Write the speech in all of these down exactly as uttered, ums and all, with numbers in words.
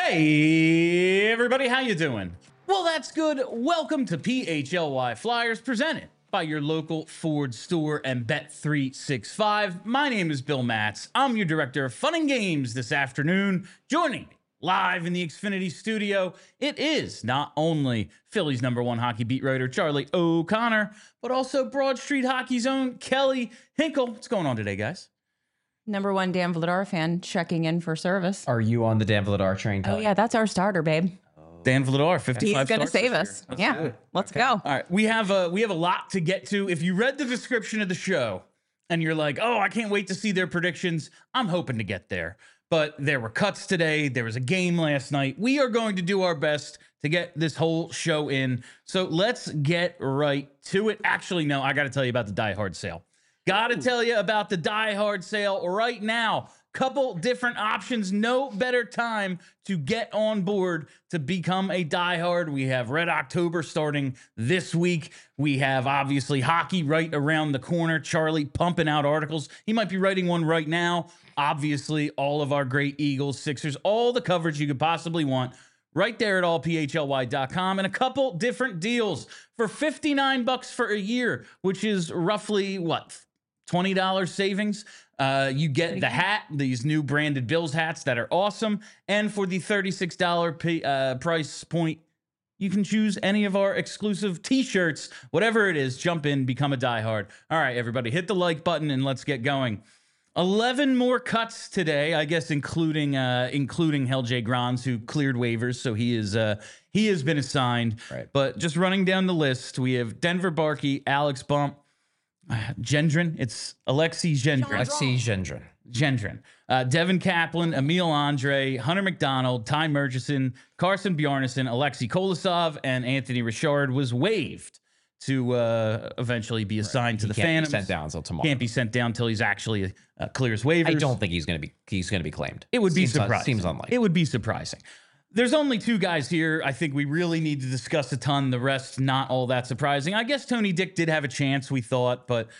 Hey, everybody, how you doing? Well, that's good. Welcome to P H L Y Flyers, presented by your local Ford store and Bet three sixty-five. My name is Bill Matz. I'm your director of fun and games this afternoon. Joining me live in the Xfinity studio, it is not only Philly's number one hockey beat writer, Charlie O'Connor, but also Broad Street Hockey's own Kelly Hinkle. What's going on today, guys? Number one Dan Vladar fan checking in for service. Are you on the Dan Vladar train, Kelly? Oh, yeah, that's our starter, babe. Dan Vladar, fifty-five He's going to stars save this us. year. Let's Yeah, do it. let's Okay. go. All right, we have a we have a lot to get to. If you read the description of the show and you're like, "Oh, I can't wait to see their predictions," I'm hoping to get there. But there were cuts today. There was a game last night. We are going to do our best to get this whole show in. So let's get right to it. Actually, no, I got to tell you about the Die Hard sale. Got to tell you about the Die Hard sale right now. Couple different options. No better time to get on board to become a diehard. We have Red October starting this week. We have obviously hockey right around the corner. Charlie pumping out articles. He might be writing one right now. Obviously, all of our great Eagles, Sixers, all the coverage you could possibly want right there at all P H L Y dot com, and a couple different deals for fifty-nine bucks for a year, which is roughly what, twenty dollars savings. Uh, you get the hat, these new branded Bills hats that are awesome. And for the thirty-six dollars p- uh, price point, you can choose any of our exclusive t-shirts, whatever it is. Jump in, become a diehard. All right, everybody, hit the like button and let's get going. eleven more cuts today, I guess, including uh, including Hell J. Grons, who cleared waivers, so he is uh, he has been assigned. Right. But just running down the list, we have Denver Barkey, Alex Bump, Gendron. It's Alexei Gendron. Alexei Gendron. Gendron. Uh, Devin Kaplan, Emil Andre, Hunter McDonald, Ty Murchison, Carson Bjarnason, Alexei Kolosov, and Anthony Richard was waived to uh, eventually be assigned Right. to He the can't be Phantoms. sent down until tomorrow. Can't be sent down until he's actually uh, clears waivers. I don't think he's going to be. He's going to be claimed. It would be Seems- surprising. Seems unlikely. It would be surprising. There's only two guys here. I think we really need to discuss a ton. The rest, not all that surprising. I guess Tony Dick did have a chance, we thought, but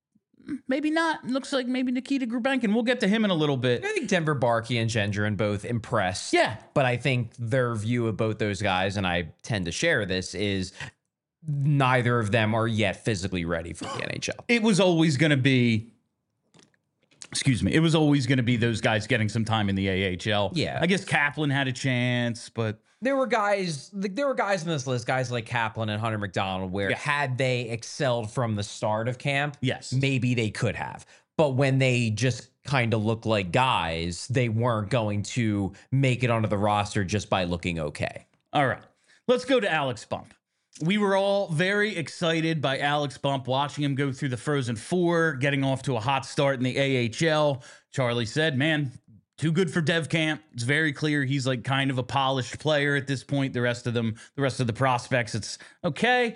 maybe not. Looks like maybe Nikita Grubenkin. We'll get to him in a little bit. I think Denver Barkey and Gendron both impressed. Yeah. But I think their view of both those guys, and I tend to share this, is neither of them are yet physically ready for the N H L. It was always going to be, excuse me, it was always going to be those guys getting some time in the A H L. Yeah. I guess Kaplan had a chance, but There were guys, there were guys in this list, guys like Kaplan and Hunter McDonald, where Yeah. had they excelled from the start of camp, yes. maybe they could have. But when they just kind of look like guys, they weren't going to make it onto the roster just by looking okay. All right. Let's go to Alex Bump. We were all very excited by Alex Bump, watching him go through the Frozen Four, getting off to a hot start in the A H L. Charlie said, man, too good for Dev Camp. It's very clear he's like kind of a polished player at this point. The rest of them, the rest of the prospects, it's okay.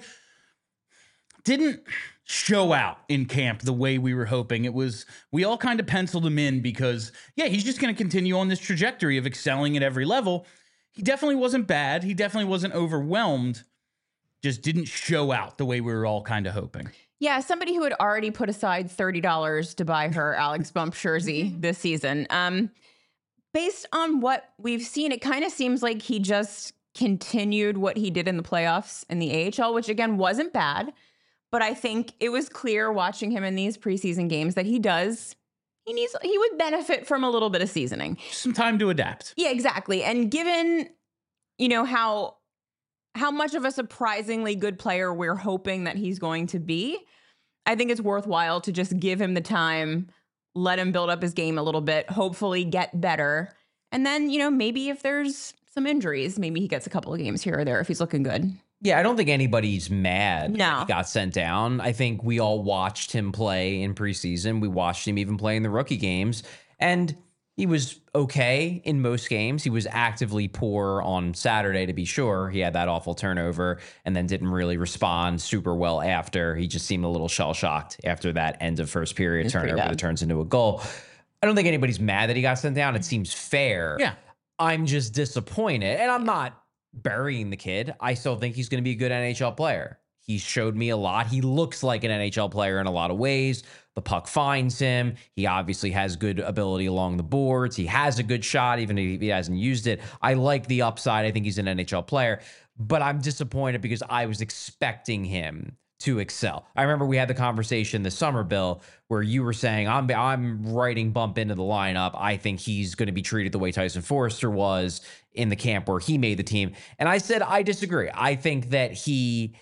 Didn't show out in camp the way we were hoping. It was, we all kind of penciled him in because, yeah, he's just going to continue on this trajectory of excelling at every level. He definitely wasn't bad. He definitely wasn't overwhelmed. Just didn't show out the way we were all kind of hoping. Yeah, somebody who had already put aside thirty dollars to buy her Alex Bump jersey this season. Um, based on what we've seen, it kind of seems like he just continued what he did in the playoffs in the A H L, which again wasn't bad. But I think it was clear watching him in these preseason games that he does, he needs, he would benefit from a little bit of seasoning. Some time to adapt. Yeah, exactly. And given, you know, how how much of a surprisingly good player we're hoping that he's going to be, I think it's worthwhile to just give him the time, let him build up his game a little bit, hopefully get better. And then, you know, maybe if there's some injuries, maybe he gets a couple of games here or there if he's looking good. Yeah, I don't think anybody's mad No. that he got sent down. I think we all watched him play in preseason. We watched him even play in the rookie games. And he was okay in most games. He was actively poor on Saturday, to be sure. He had that awful turnover and then didn't really respond super well after. He just seemed a little shell-shocked after that end of first period It's pretty turnover bad. that turns into a goal. I don't think anybody's mad that he got sent down. It seems fair. Yeah. I'm just disappointed. And I'm not burying the kid. I still think he's going to be a good N H L player. He showed me a lot. He looks like an N H L player in a lot of ways. The puck finds him. He obviously has good ability along the boards. He has a good shot, even if he hasn't used it. I like the upside. I think he's an N H L player, but I'm disappointed because I was expecting him to excel. I remember we had the conversation this summer, Bill, where you were saying, I'm I'm writing Bump into the lineup. I think he's going to be treated the way Tyson Forrester was in the camp where he made the team. And I said, I disagree. I think that he,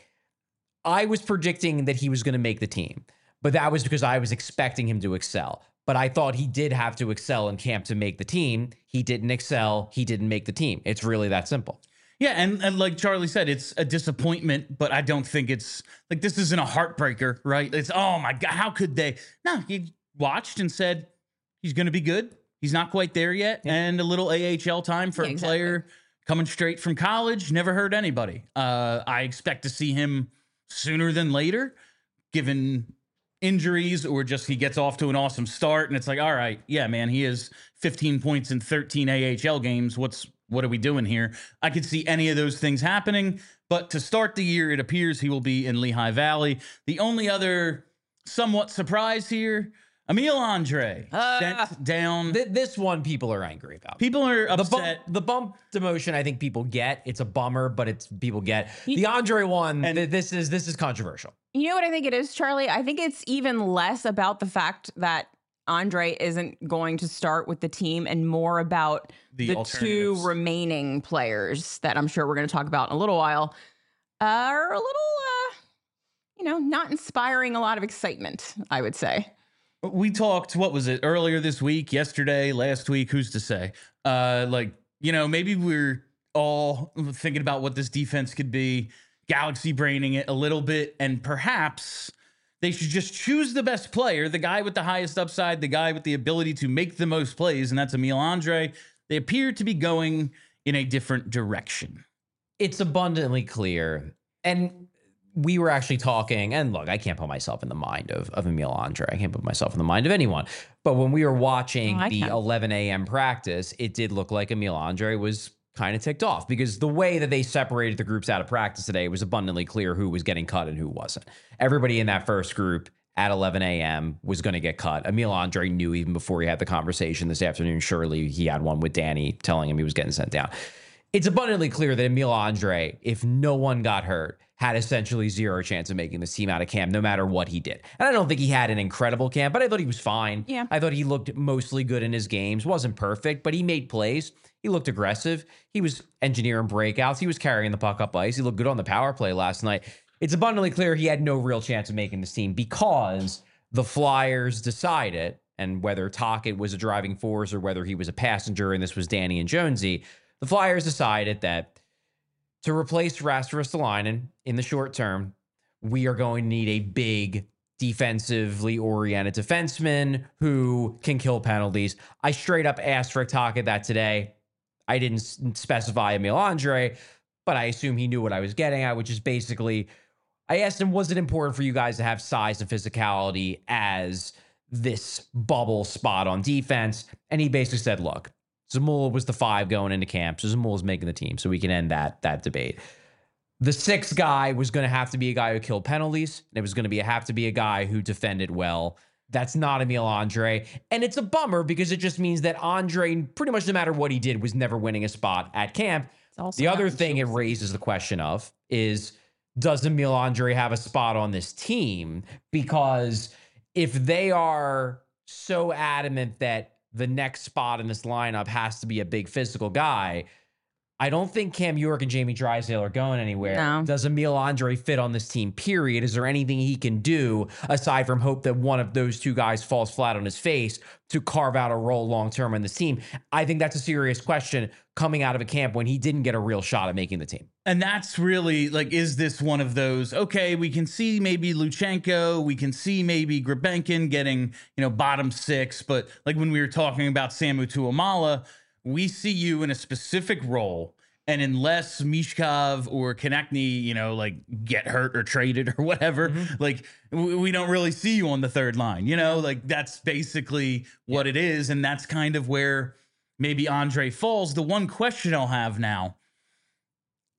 I was predicting that he was going to make the team, but that was because I was expecting him to excel. But I thought he did have to excel in camp to make the team. He didn't excel. He didn't make the team. It's really that simple. Yeah, and, and like Charlie said, it's a disappointment, but I don't think it's like this isn't a heartbreaker, right? It's, oh my God, how could they? No, he watched and said he's going to be good. He's not quite there yet. Yeah. And a little A H L time for yeah, a exactly. player coming straight from college. Never hurt anybody. Uh, I expect to see him sooner than later, given injuries or just he gets off to an awesome start. And it's like, all right, yeah, man, he has fifteen points in thirteen A H L games. What's What are we doing here? I could see any of those things happening, but to start the year, it appears he will be in Lehigh Valley. The only other somewhat surprise here, Emil Andre uh, sent down. Th- this one people are angry about. People are the upset. Bump, the bump demotion, I think people get. It's a bummer, but it's people get. The Andre one, and th- this is this is controversial. You know what I think it is, Charlie? I think it's even less about the fact that Andre isn't going to start with the team and more about the, the two remaining players that I'm sure we're going to talk about in a little while uh, are a little, uh, you know, not inspiring a lot of excitement, I would say. We talked, what was it, earlier this week, yesterday, last week, who's to say? Uh, like, you know, maybe we're all thinking about what this defense could be, galaxy braining it a little bit, and perhaps they should just choose the best player, the guy with the highest upside, the guy with the ability to make the most plays, and that's Emil Andre. They appear to be going in a different direction. It's abundantly clear. And we were actually talking, and look, I can't put myself in the mind of, of Emil Andre. I can't put myself in the mind of anyone. But when we were watching oh, the can. eleven a.m. practice, it did look like Emil Andre was kind of ticked off because the way that they separated the groups out of practice today, it was abundantly clear who was getting cut and who wasn't. Everybody in that first group at eleven a.m. was going to get cut. Emil Andre knew even before he had the conversation this afternoon. Surely he had one with Danny telling him he was getting sent down. It's abundantly clear that Emil Andre, if no one got hurt, had essentially zero chance of making this team out of camp, no matter what he did. And I don't think he had an incredible camp, but I thought he was fine. Yeah. I thought he looked mostly good in his games. Wasn't perfect, but he made plays. He looked aggressive. He was engineering breakouts. He was carrying the puck up ice. He looked good on the power play last night. It's abundantly clear he had no real chance of making this team because the Flyers decided, and whether Tocchet was a driving force or whether he was a passenger and this was Danny and Jonesy, the Flyers decided that to replace Rasmus Ristolainen in the short term, we are going to need a big defensively oriented defenseman who can kill penalties. I straight up asked Rick Tocchet that today. I didn't specify Emil Andre, but I assume he knew what I was getting at, which is basically, I asked him, was it important for you guys to have size and physicality as this bubble spot on defense? And he basically said, look, Zamula was the five going into camp, so Zamula's making the team, so we can end that that debate. The sixth guy was going to have to be a guy who killed penalties, and it was going to be have to be a guy who defended well. That's not Emil Andre, and it's a bummer because it just means that Andre, pretty much no matter what he did, was never winning a spot at camp. The other thing it raises the question of is, does Emil Andre have a spot on this team? Because if they are so adamant that the next spot in this lineup has to be a big physical guy, I don't think Cam York and Jamie Drysdale are going anywhere. No. Does Emil Andre fit on this team, period? Is there anything he can do aside from hope that one of those two guys falls flat on his face to carve out a role long-term in this team? I think that's a serious question coming out of a camp when he didn't get a real shot at making the team. And that's really like, is this one of those, okay, we can see maybe Luchenko, we can see maybe Grebenkin getting, you know, bottom six, but like when we were talking about Samu Tuamala, we see you in a specific role, and unless Mishkov or Konechny, you know, like get hurt or traded or whatever, mm-hmm. like w- we don't really see you on the third line, you know, like that's basically what yeah. it is. And that's kind of where maybe Andre falls. The one question I'll have now,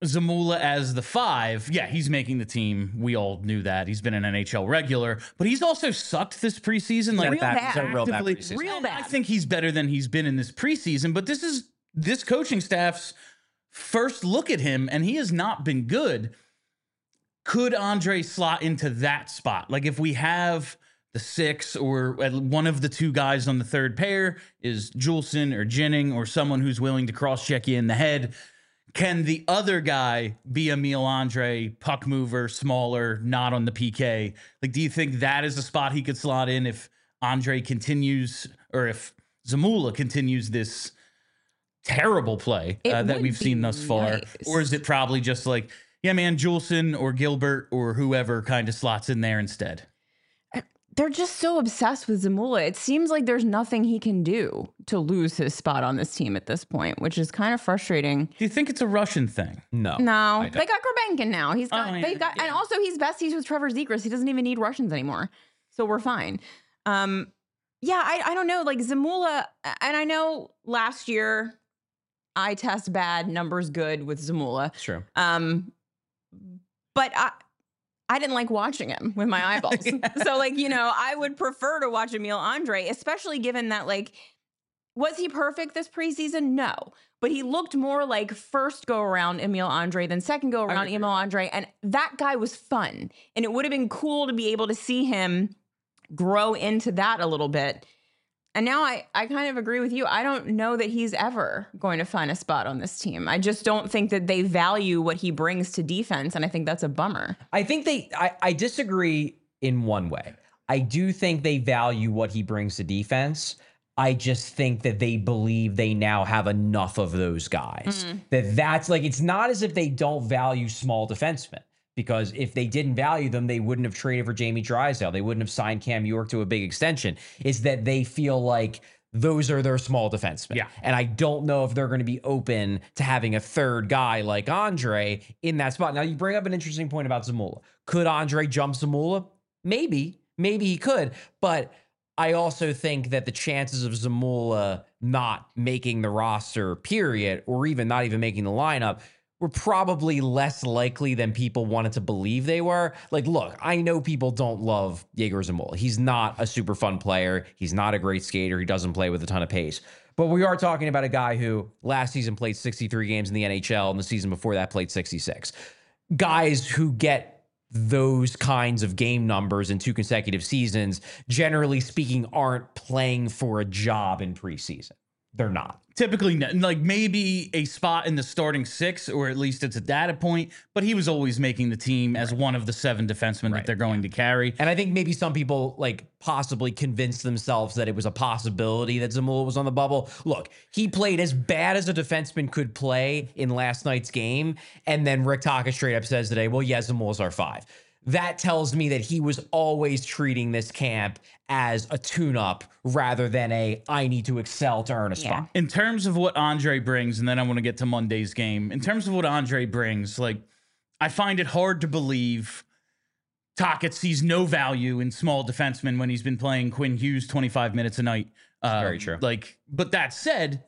Zamula as the five, yeah, he's making the team. We all knew that. He's been an N H L regular, but he's also sucked this preseason. Like, real bad. He's had a real bad actively- preseason. Real And I bad. think he's better than he's been in this preseason, but this is this coaching staff's first look at him, and he has not been good. Could Andre slot into that spot? Like, if we have the six or one of the two guys on the third pair is Juleson or Jennings or someone who's willing to cross-check you in the head, can the other guy be Emil Andre, puck mover, smaller, not on the P K? Like, do you think that is a spot he could slot in if Andre continues, or if Zamula continues this terrible play It uh, that would we've be seen thus far? nice. Or is it probably just like, yeah, man, Juleson or Gilbert or whoever kind of slots in there instead? They're just so obsessed with Zamula. It seems like there's nothing he can do to lose his spot on this team at this point, which is kind of frustrating. Do you think it's a Russian thing? No. No, don't. they got Grabenkin now. He's got, Oh, yeah, they've got, yeah. and also he's besties with Trevor Zegras. He doesn't even need Russians anymore, so we're fine. Um, yeah, I, I don't know, like Zamula, and I know last year eye test bad, numbers good with Zamula. It's true. Um, but I. I didn't like watching him with my eyeballs. So, like, you know, I would prefer to watch Emil Andre, especially given that, like, was he perfect this preseason? No. But he looked more like first go around Emil Andre than second go around Emil Andre. And that guy was fun. And it would have been cool to be able to see him grow into that a little bit. And now I, I kind of agree with you. I don't know that he's ever going to find a spot on this team. I just don't think that they value what he brings to defense. And I think that's a bummer. I think they, I, I disagree in one way. I do think they value what he brings to defense. I just think that they believe they now have enough of those guys. Mm. That that's like, it's not as if they don't value small defensemen. Because if they didn't value them, they wouldn't have traded for Jamie Drysdale. They wouldn't have signed Cam York to a big extension. It's that they feel like those are their small defensemen. Yeah. And I don't know if they're going to be open to having a third guy like Andre in that spot. Now, you bring up an interesting point about Zamula. Could Andre jump Zamula? Maybe. Maybe he could. But I also think that the chances of Zamula not making the roster, period, or even not even making the lineup, were probably less likely than people wanted to believe they were. Like, look, I know people don't love Yegor Zamula. He's not a super fun player. He's not a great skater. He doesn't play with a ton of pace. But we are talking about a guy who last season played sixty-three games in the N H L, and the season before that played sixty-six. Guys who get those kinds of game numbers in two consecutive seasons, generally speaking, aren't playing for a job in preseason. They're not. Typically, no- like maybe a spot in the starting six, or at least it's a data point, but he was always making the team as one of the seven defensemen Right. that they're going to carry. And I think maybe some people like possibly convinced themselves that it was a possibility that Zamula was on the bubble. Look, he played as bad as a defenseman could play in last night's game. And then Rick Taka straight up says today, well, yeah, Zamula's our five. That tells me that he was always treating this camp as a tune-up rather than a I need to excel to earn a spot. In terms of what Andre brings, and then I want to get to Monday's game. In terms of what Andre brings, like, I find it hard to believe Tocchet sees no value in small defensemen when he's been playing Quinn Hughes twenty-five minutes a night. Uh, very true. Like, but that said,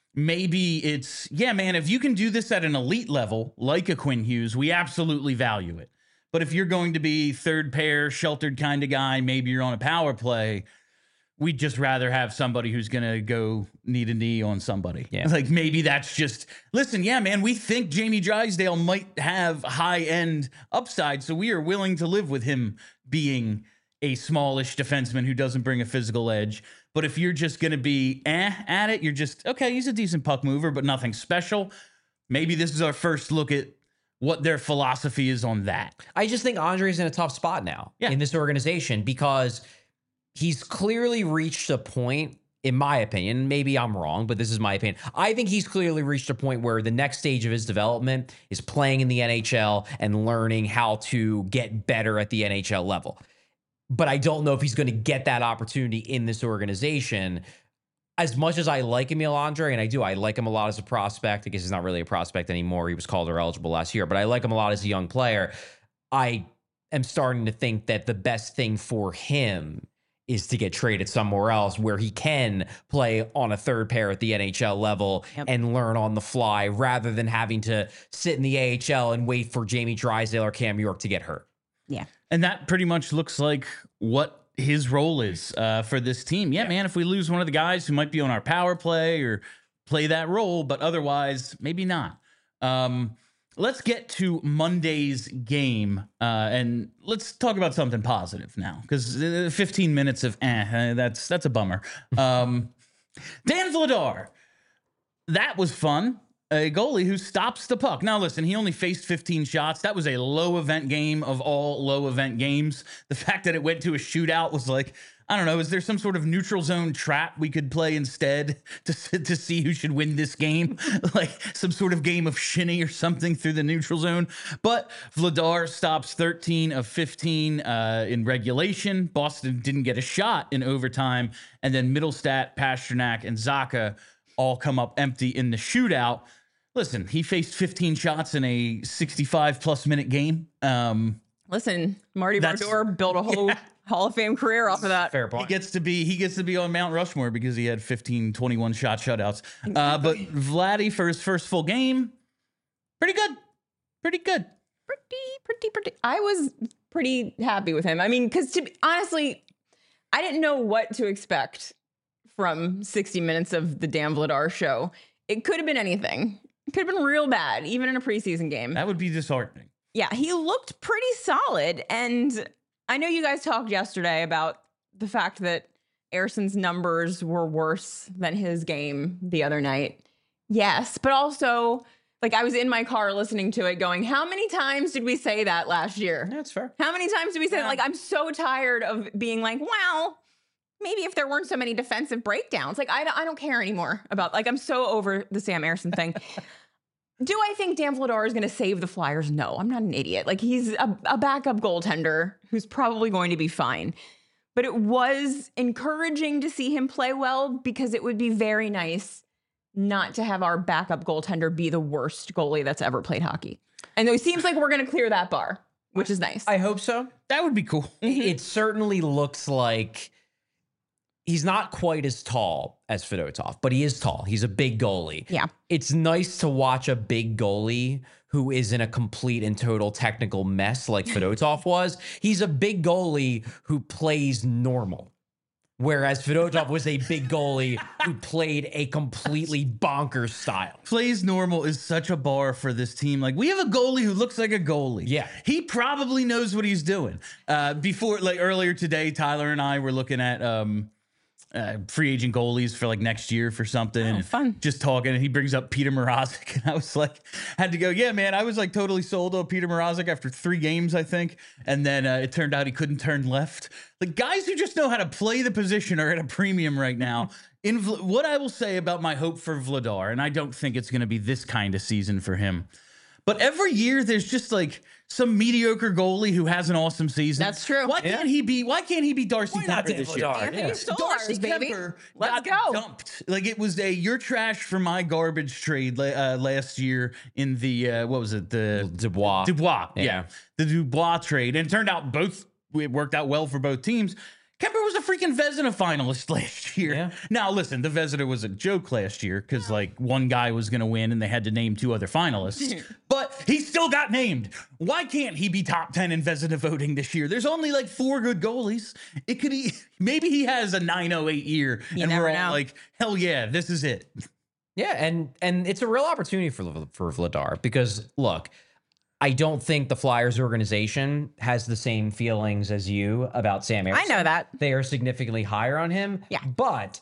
maybe it's, yeah, man, if you can do this at an elite level, like a Quinn Hughes, we absolutely value it. But if you're going to be third pair, sheltered kind of guy, maybe you're on a power play, we'd just rather have somebody who's going to go knee to knee on somebody. Yeah. Like maybe that's just, listen, yeah, man, we think Jamie Drysdale might have high end upside, so we are willing to live with him being a smallish defenseman who doesn't bring a physical edge. But if you're just going to be eh at it, you're just, okay, he's a decent puck mover, but nothing special. Maybe this is our first look at what their philosophy is on that. I just think Andre's in a tough spot now Yeah. in this organization because he's clearly reached a point, in my opinion, maybe I'm wrong, but this is my opinion. I think he's clearly reached a point where the next stage of his development is playing in the N H L and learning how to get better at the N H L level. But I don't know if he's going to get that opportunity in this organization. As much as I like Emil Andre, and I do, I like him a lot as a prospect. I guess he's not really a prospect anymore. He was Calder eligible last year, but I like him a lot as a young player. I am starting to think that the best thing for him is to get traded somewhere else where he can play on a third pair at the N H L level Yep. and learn on the fly rather than having to sit in the A H L and wait for Jamie Drysdale or Cam York to get hurt. Yeah. And that pretty much looks like what his role is uh, for this team. Yeah, yeah, man, if we lose one of the guys who might be on our power play or play that role, but otherwise, maybe not. Um, let's get to Monday's game, uh, and let's talk about something positive now, because fifteen minutes of eh, that's that's a bummer. Um, Dan Vladar, that was fun. A goalie who stops the puck. Now, listen, he only faced fifteen shots. That was a low event game of all low event games. The fact that it went to a shootout was like, I don't know, is there some sort of neutral zone trap we could play instead to, to see who should win this game? Like some sort of game of shinny or something through the neutral zone. But Vladar stops thirteen of fifteen uh, in regulation. Boston didn't get a shot in overtime. And then Middlestat, Pasternak, and Zacha all come up empty in the shootout. Listen, he faced fifteen shots in a sixty-five plus minute game. Um, Listen, Marty That's- Brodeur built a whole yeah. Hall of Fame career off of that. Fair he point. gets to be he gets to be on Mount Rushmore because he had fifteen, twenty-one shot shutouts. Uh, but Vladdy for his first full game, pretty good, pretty good. Pretty, pretty, pretty. I was pretty happy with him. I mean, because to be, honestly, I didn't know what to expect from sixty minutes of the Dan Vladar show. It could have been anything. It could have been real bad, even in a preseason game. That would be disheartening. Yeah, he looked pretty solid. And I know you guys talked yesterday about the fact that Erson's numbers were worse than his game the other night. Yes, but also, like, I was in my car listening to it going, how many times did we say that last year? That's fair. How many times did we say Yeah. that? Like, I'm so tired of being like, well, maybe if there weren't so many defensive breakdowns. Like, I don't, I don't care anymore about, like, I'm so over the Sam Erson thing. Do I think Dan Vladar is going to save the Flyers? No, I'm not an idiot. Like, he's a, a backup goaltender who's probably going to be fine. But it was encouraging to see him play well because it would be very nice not to have our backup goaltender be the worst goalie that's ever played hockey. And it seems like we're going to clear that bar, which is nice. I hope so. That would be cool. It certainly looks like he's not quite as tall as Fedotov, but he is tall. He's a big goalie. Yeah. It's nice to watch a big goalie who is in a complete and total technical mess like Fedotov was. He's a big goalie who plays normal. Whereas Fedotov was a big goalie who played a completely bonkers style. Plays normal is such a bar for this team. Like, we have a goalie who looks like a goalie. Yeah. He probably knows what he's doing. Uh, before, like earlier today, Tyler and I were looking at um, uh, free agent goalies for like next year for something. Oh, and fun. Just talking, and he brings up Peter Mrazek, and I was like, had to go, yeah, man, I was like totally sold on Peter Mrazek after three games, I think. And then uh, it turned out he couldn't turn left. Like, guys who just know how to play the position are at a premium right now. In Vl- what I will say about my hope for Vladar, and I don't think it's going to be this kind of season for him, but every year there's just like some mediocre goalie who has an awesome season. That's true. Why can't he be? Why can't he be Darcy Why not Kemper Dan this year? Vladar? Anthony Yeah. Stolarz, Darcy baby. Kemper Let's got go. dumped. Like, it was a you're trash for my garbage trade la- uh, last year in the uh, what was it the Dubois. Dubois yeah. Yeah. the Dubois trade, and it turned out both it worked out well for both teams. Kemper was a freaking Vezina finalist last year. Yeah. Now, listen, the Vezina was a joke last year because, like, one guy was going to win and they had to name two other finalists. But he still got named. Why can't he be top ten in Vezina voting this year? There's only, like, four good goalies. It could be, maybe he has a nine oh eight year You and never we're all know. like, hell yeah, this is it. Yeah, and and it's a real opportunity for for Vladar because look, I don't think the Flyers organization has the same feelings as you about Sam Erson. I know that. They are significantly higher on him. Yeah. But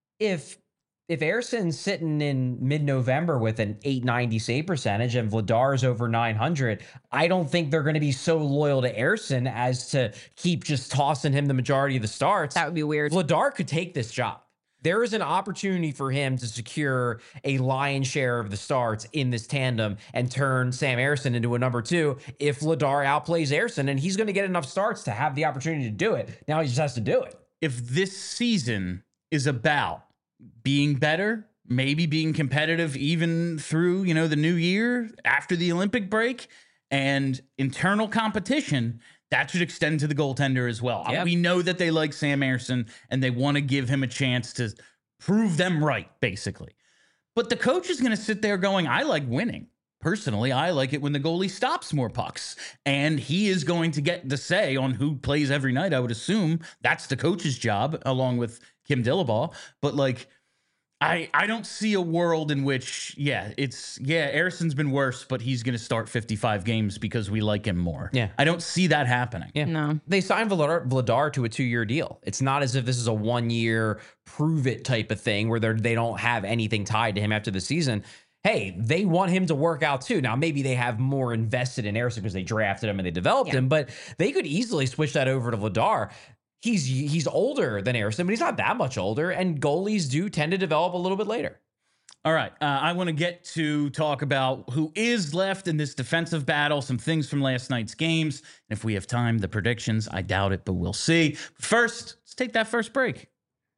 if if Erson's sitting in mid-November with an eight ninety save percentage and Vladar's over nine hundred, I don't think they're going to be so loyal to Erson as to keep just tossing him the majority of the starts. That would be weird. Vladar could take this job. There is an opportunity for him to secure a lion's share of the starts in this tandem and turn Sam Erson into a number two if Vladar outplays Erson, and he's going to get enough starts to have the opportunity to do it. Now he just has to do it. If this season is about being better, maybe being competitive even through, you know, the new year after the Olympic break and internal competition, that should extend to the goaltender as well. Yep. We know that they like Sam Ersson and they want to give him a chance to prove them right, basically. But the coach is going to sit there going, I like winning. Personally, I like it when the goalie stops more pucks, and he is going to get the say on who plays every night. I would assume that's the coach's job, along with Kim Dillabaugh. But like, I I don't see a world in which, yeah, it's yeah, Ersson's been worse, but he's going to start fifty-five games because we like him more. Yeah. I don't see that happening. Yeah. No. They signed Vladar, Vladar to a two-year deal. It's not as if this is a one-year prove-it type of thing where they're, they don't have anything tied to him after the season. Hey, they want him to work out too. Now, maybe they have more invested in Ersson because they drafted him and they developed Yeah. him, but they could easily switch that over to Vladar. He's he's older than Ersson, but he's not that much older, and goalies do tend to develop a little bit later. All right. Uh, I want to get to talk about who is left in this defensive battle, some things from last night's games. And if we have time, the predictions. I doubt it, but we'll see. First, let's take that first break.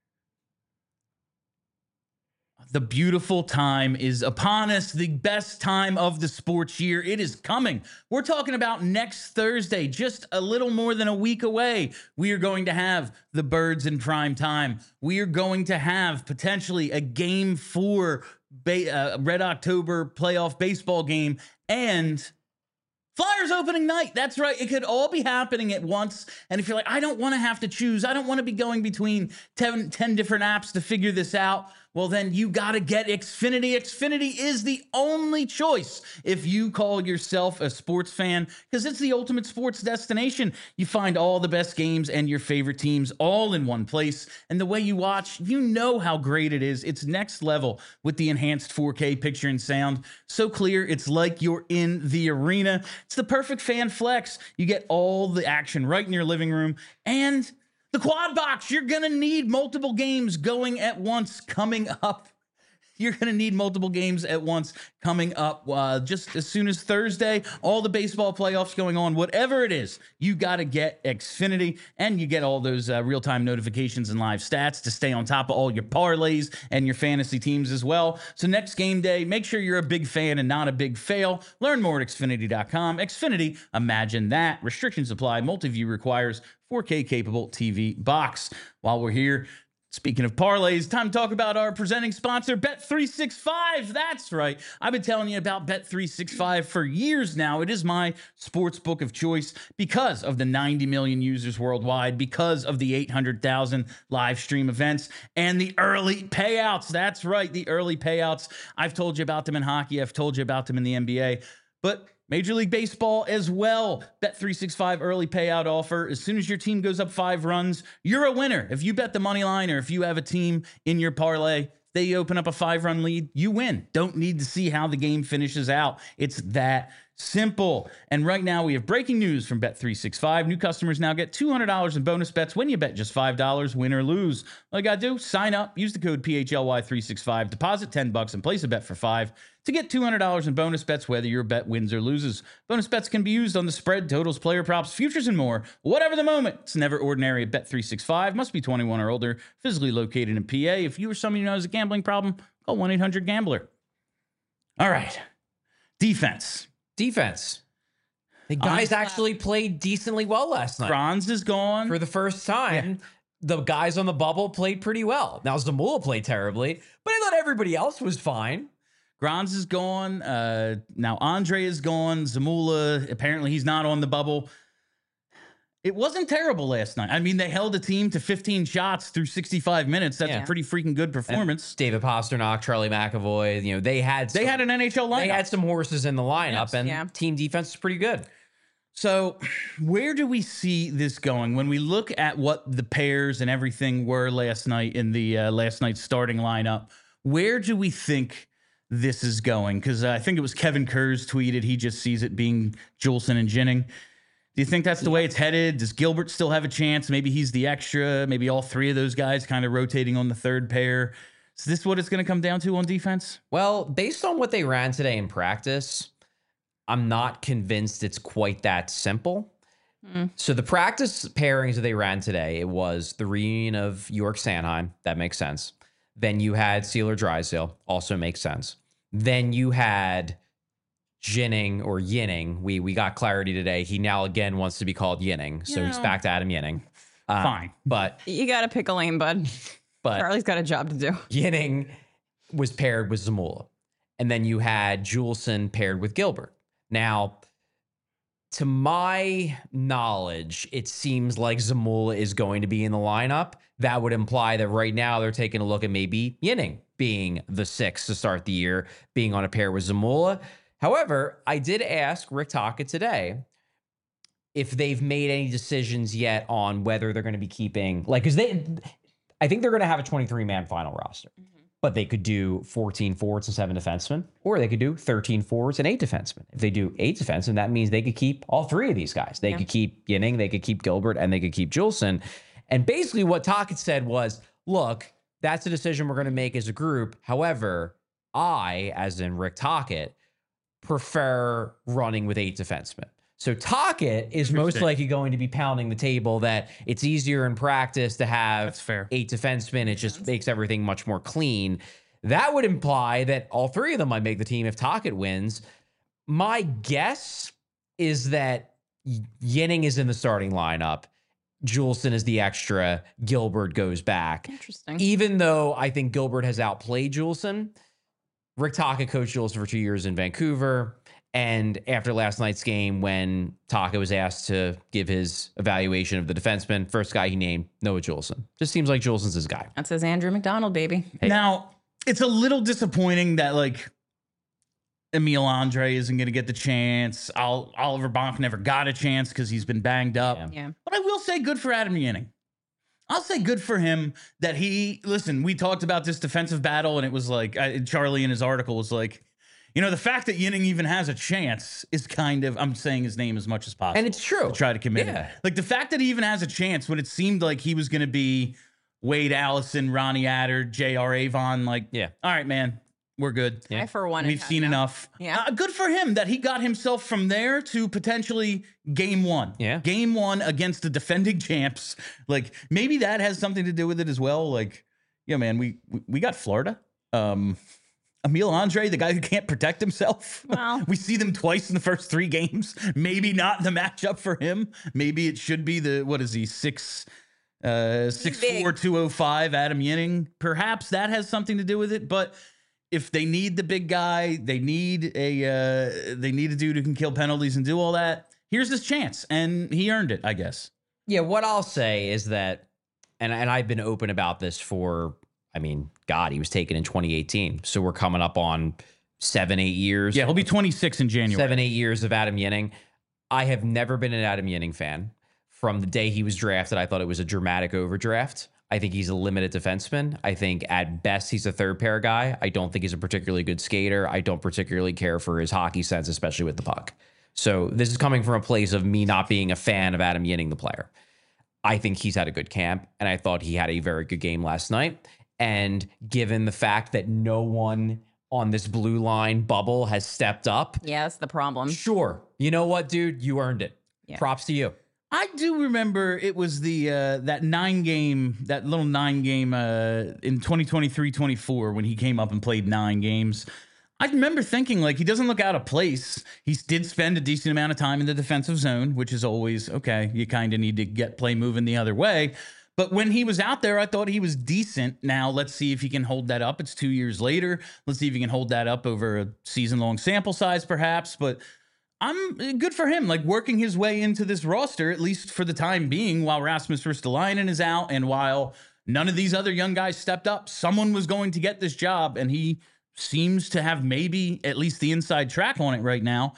The beautiful time is upon us, the best time of the sports year. It is coming. We're talking about next Thursday, just a little more than a week away. We are going to have the Birds in prime time. We are going to have potentially a game four ba- uh, Red October playoff baseball game and Flyers opening night. That's right. It could all be happening at once. And if you're like, I don't want to have to choose, I don't want to be going between ten, ten different apps to figure this out, well, then you got to get Xfinity. Xfinity is the only choice if you call yourself a sports fan, because it's the ultimate sports destination. You find all the best games and your favorite teams all in one place. And the way you watch, you know how great it is. It's next level with the enhanced four K picture and sound. So clear, it's like you're in the arena. It's the perfect fan flex. You get all the action right in your living room. And the quad box, you're going to need multiple games going at once coming up. You're going to need multiple games at once coming up uh, just as soon as Thursday. All the baseball playoffs going on, whatever it is, you got to get Xfinity, and you get all those uh, real-time notifications and live stats to stay on top of all your parlays and your fantasy teams as well. So next game day, make sure you're a big fan and not a big fail. Learn more at Xfinity dot com. Xfinity, imagine that. Restrictions apply. Multi-view requires four K capable T V box. While we're here, speaking of parlays, time to talk about our presenting sponsor, Bet three sixty-five. That's right. I've been telling you about Bet three sixty-five for years now. It is my sports book of choice because of the ninety million users worldwide, because of the eight hundred thousand live stream events, and the early payouts. That's right, the early payouts. I've told you about them in hockey. I've told you about them in the N B A. But Major League Baseball as well. Bet three sixty-five early payout offer. As soon as your team goes up five runs, you're a winner. If you bet the money line or if you have a team in your parlay, they open up a five-run lead, you win. Don't need to see how the game finishes out. It's that simple. And right now we have breaking news from Bet three sixty-five. New customers now get two hundred dollars in bonus bets when you bet just five dollars, win or lose. All you got to do, sign up, use the code P H L Y three sixty-five, deposit ten bucks and place a bet for five to get two hundred dollars in bonus bets, whether your bet wins or loses. Bonus bets can be used on the spread, totals, player props, futures, and more. Whatever the moment, it's never ordinary at Bet three sixty-five. Must be twenty-one or older, physically located in P A. If you or someone you know has a gambling problem, call one eight hundred gambler. All right. Defense. Defense. The guys actually played decently well last night. Franz is gone. For the first time, the guys on the bubble played pretty well. Now, Zamula played terribly, but I thought everybody else was fine. Granz is gone. Uh, now Andre is gone. Zamula, apparently he's not on the bubble. It wasn't terrible last night. I mean, they held a team to fifteen shots through sixty-five minutes. That's Yeah. a pretty freaking good performance. And David Pasternak, Charlie McAvoy, you know, they had They some, had an N H L lineup. they had some horses in the lineup, Yes. and Yeah. team defense is pretty good. So where do we see this going? When we look at what the pairs and everything were last night in the uh, last night's starting lineup, where do we think this is going? Because uh, I think it was Kevin Kurz tweeted he just sees it being Juleson and Ginning. Do you think that's the way it's headed? Does Gilbert still have a chance? Maybe he's the extra. Maybe all three of those guys kind of rotating on the third pair. Is this what it's going to come down to on defense? Well, based on what they ran today in practice, I'm not convinced it's quite that simple. Mm. So the practice pairings that they ran today, it was the reunion of York Sanheim. That makes sense. Then you had Sealer Drysdale. Also makes sense. Then you had Jinning or Yinning. We we got clarity today. He now again wants to be called Yinning, so You he's know. back to Adam Yinning. Uh, Fine. but You got to pick a lane, bud. but Charlie's got a job to do. Yinning was paired with Zamula, and then you had Juleson paired with Gilbert. Now, to my knowledge, it seems like Zamula is going to be in the lineup. That would imply that right now they're taking a look at maybe Yinning being the sixth to start the year, being on a pair with Zamula. However, I did ask Rick Tocchet today if they've made any decisions yet on whether they're going to be keeping, like, because they, I think they're going to have a twenty-three man final roster, mm-hmm. but they could do fourteen forwards and seven defensemen, or they could do thirteen forwards and eight defensemen. If they do eight defensemen, that means they could keep all three of these guys. They yeah. could keep Yinning, they could keep Gilbert, and they could keep Juleson. And basically what Tocchet said was, look, that's a decision we're going to make as a group. However, I, as in Rick Tocchet, prefer running with eight defensemen. So Tocchet is most likely going to be pounding the table that it's easier in practice to have That's fair. eight defensemen. It just makes everything much more clean. That would imply that all three of them might make the team if Tocchet wins. My guess is that Yinning is in the starting lineup. Juleson is the extra. Gilbert goes back. Interesting. Even though I think Gilbert has outplayed Juleson, Rick Tocchet coached Juleson for two years in Vancouver. And after last night's game, when Tocchet was asked to give his evaluation of the defenseman, first guy he named, Noah Juleson. Just seems like Juleson's his guy. That says Andrew McDonald, baby. Hey. Now, it's a little disappointing that, like, Emil Andre isn't going to get the chance. I'll, Oliver Bonk never got a chance because he's been banged up. Yeah. Yeah. But I will say good for Adam Yinning. I'll say good for him that he, listen, we talked about this defensive battle, and it was like, I, Charlie in his article was like, you know, the fact that Yinning even has a chance is kind of, I'm saying his name as much as possible. And it's true. To try to commit Yeah. it. Like, the fact that he even has a chance when it seemed like he was going to be Wade Allison, Ronnie Adder, J R Avon, like, Yeah. all right, man, we're good. Yeah. I, for one, We've have seen enough. enough. Yeah. Uh, good for him that he got himself from there to potentially game one. Yeah. Game one against the defending champs. Like, maybe that has something to do with it as well. Like, yeah, man, we we, we got Florida. Um, Emil Andre, the guy who can't protect himself. Well. We see them twice in the first three games. Maybe not the matchup for him. Maybe it should be the, what is he, six, uh, six four, two oh five Adam Yinning. Perhaps that has something to do with it, but if they need the big guy, they need a uh, they need a dude who can kill penalties and do all that. Here's his chance, and he earned it, I guess. Yeah, what I'll say is that, and and I've been open about this for, I mean, God, he was taken in twenty eighteen, so we're coming up on seven, eight years. Yeah, he'll be twenty-six in January. Seven, eight years of Adam Yinning. I have never been an Adam Yinning fan. From the day he was drafted, I thought it was a dramatic overdraft. I think he's a limited defenseman. I think at best he's a third pair guy. I don't think he's a particularly good skater. I don't particularly care for his hockey sense, especially with the puck. So this is coming from a place of me not being a fan of Adam Yinning, the player. I think he's had a good camp, and I thought he had a very good game last night. And given the fact that no one on this blue line bubble has stepped up, Yeah, that's the problem. sure. You know what, dude? You earned it. Yeah. Props to you. I do remember it was the uh, that nine game, that little nine game uh, in twenty twenty-three twenty-four when he came up and played nine games. I remember thinking, like, he doesn't look out of place. He did spend a decent amount of time in the defensive zone, which is always, okay, you kind of need to get play moving the other way. But when he was out there, I thought he was decent. Now, let's see if he can hold that up. It's two years later. Let's see if he can hold that up over a season-long sample size, perhaps. But I'm good for him, like working his way into this roster, at least for the time being, while Rasmus Ristolainen is out and while none of these other young guys stepped up. Someone was going to get this job, and he seems to have maybe at least the inside track on it right now.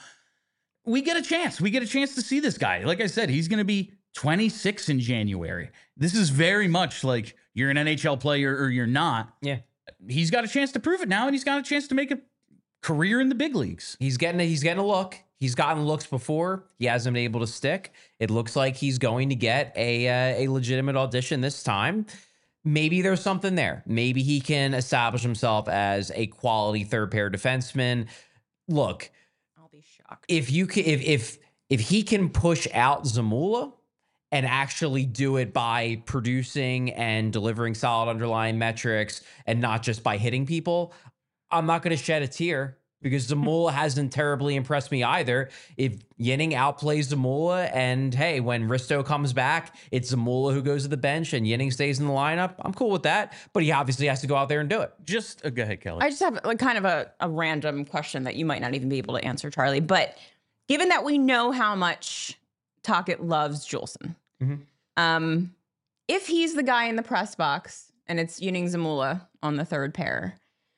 We get a chance. We get a chance to see this guy. Like I said, he's going to be twenty-six in January. This is very much like you're an N H L player or you're not. Yeah. He's got a chance to prove it now, and he's got a chance to make a career in the big leagues. He's getting a, he's getting a look. He's gotten looks before. He hasn't been able to stick. It looks like he's going to get a uh, a legitimate audition this time. Maybe there's something there. Maybe he can establish himself as a quality third pair defenseman. Look, I'll be shocked. if you can, if if if he can push out Zamula and actually do it by producing and delivering solid underlying metrics and not just by hitting people, I'm not going to shed a tear. because Zamula hasn't terribly impressed me either. If Yinning outplays Zamula, and hey, when Risto comes back, it's Zamula who goes to the bench and Yinning stays in the lineup, I'm cool with that. But he obviously has to go out there and do it. Just uh, go ahead, Kelly. I just have like kind of a, a random question that you might not even be able to answer, Charlie. But given that we know how much Tocchet loves Juleson, Mm-hmm. um, if he's the guy in the press box and it's Yinning Zamula on the third pair,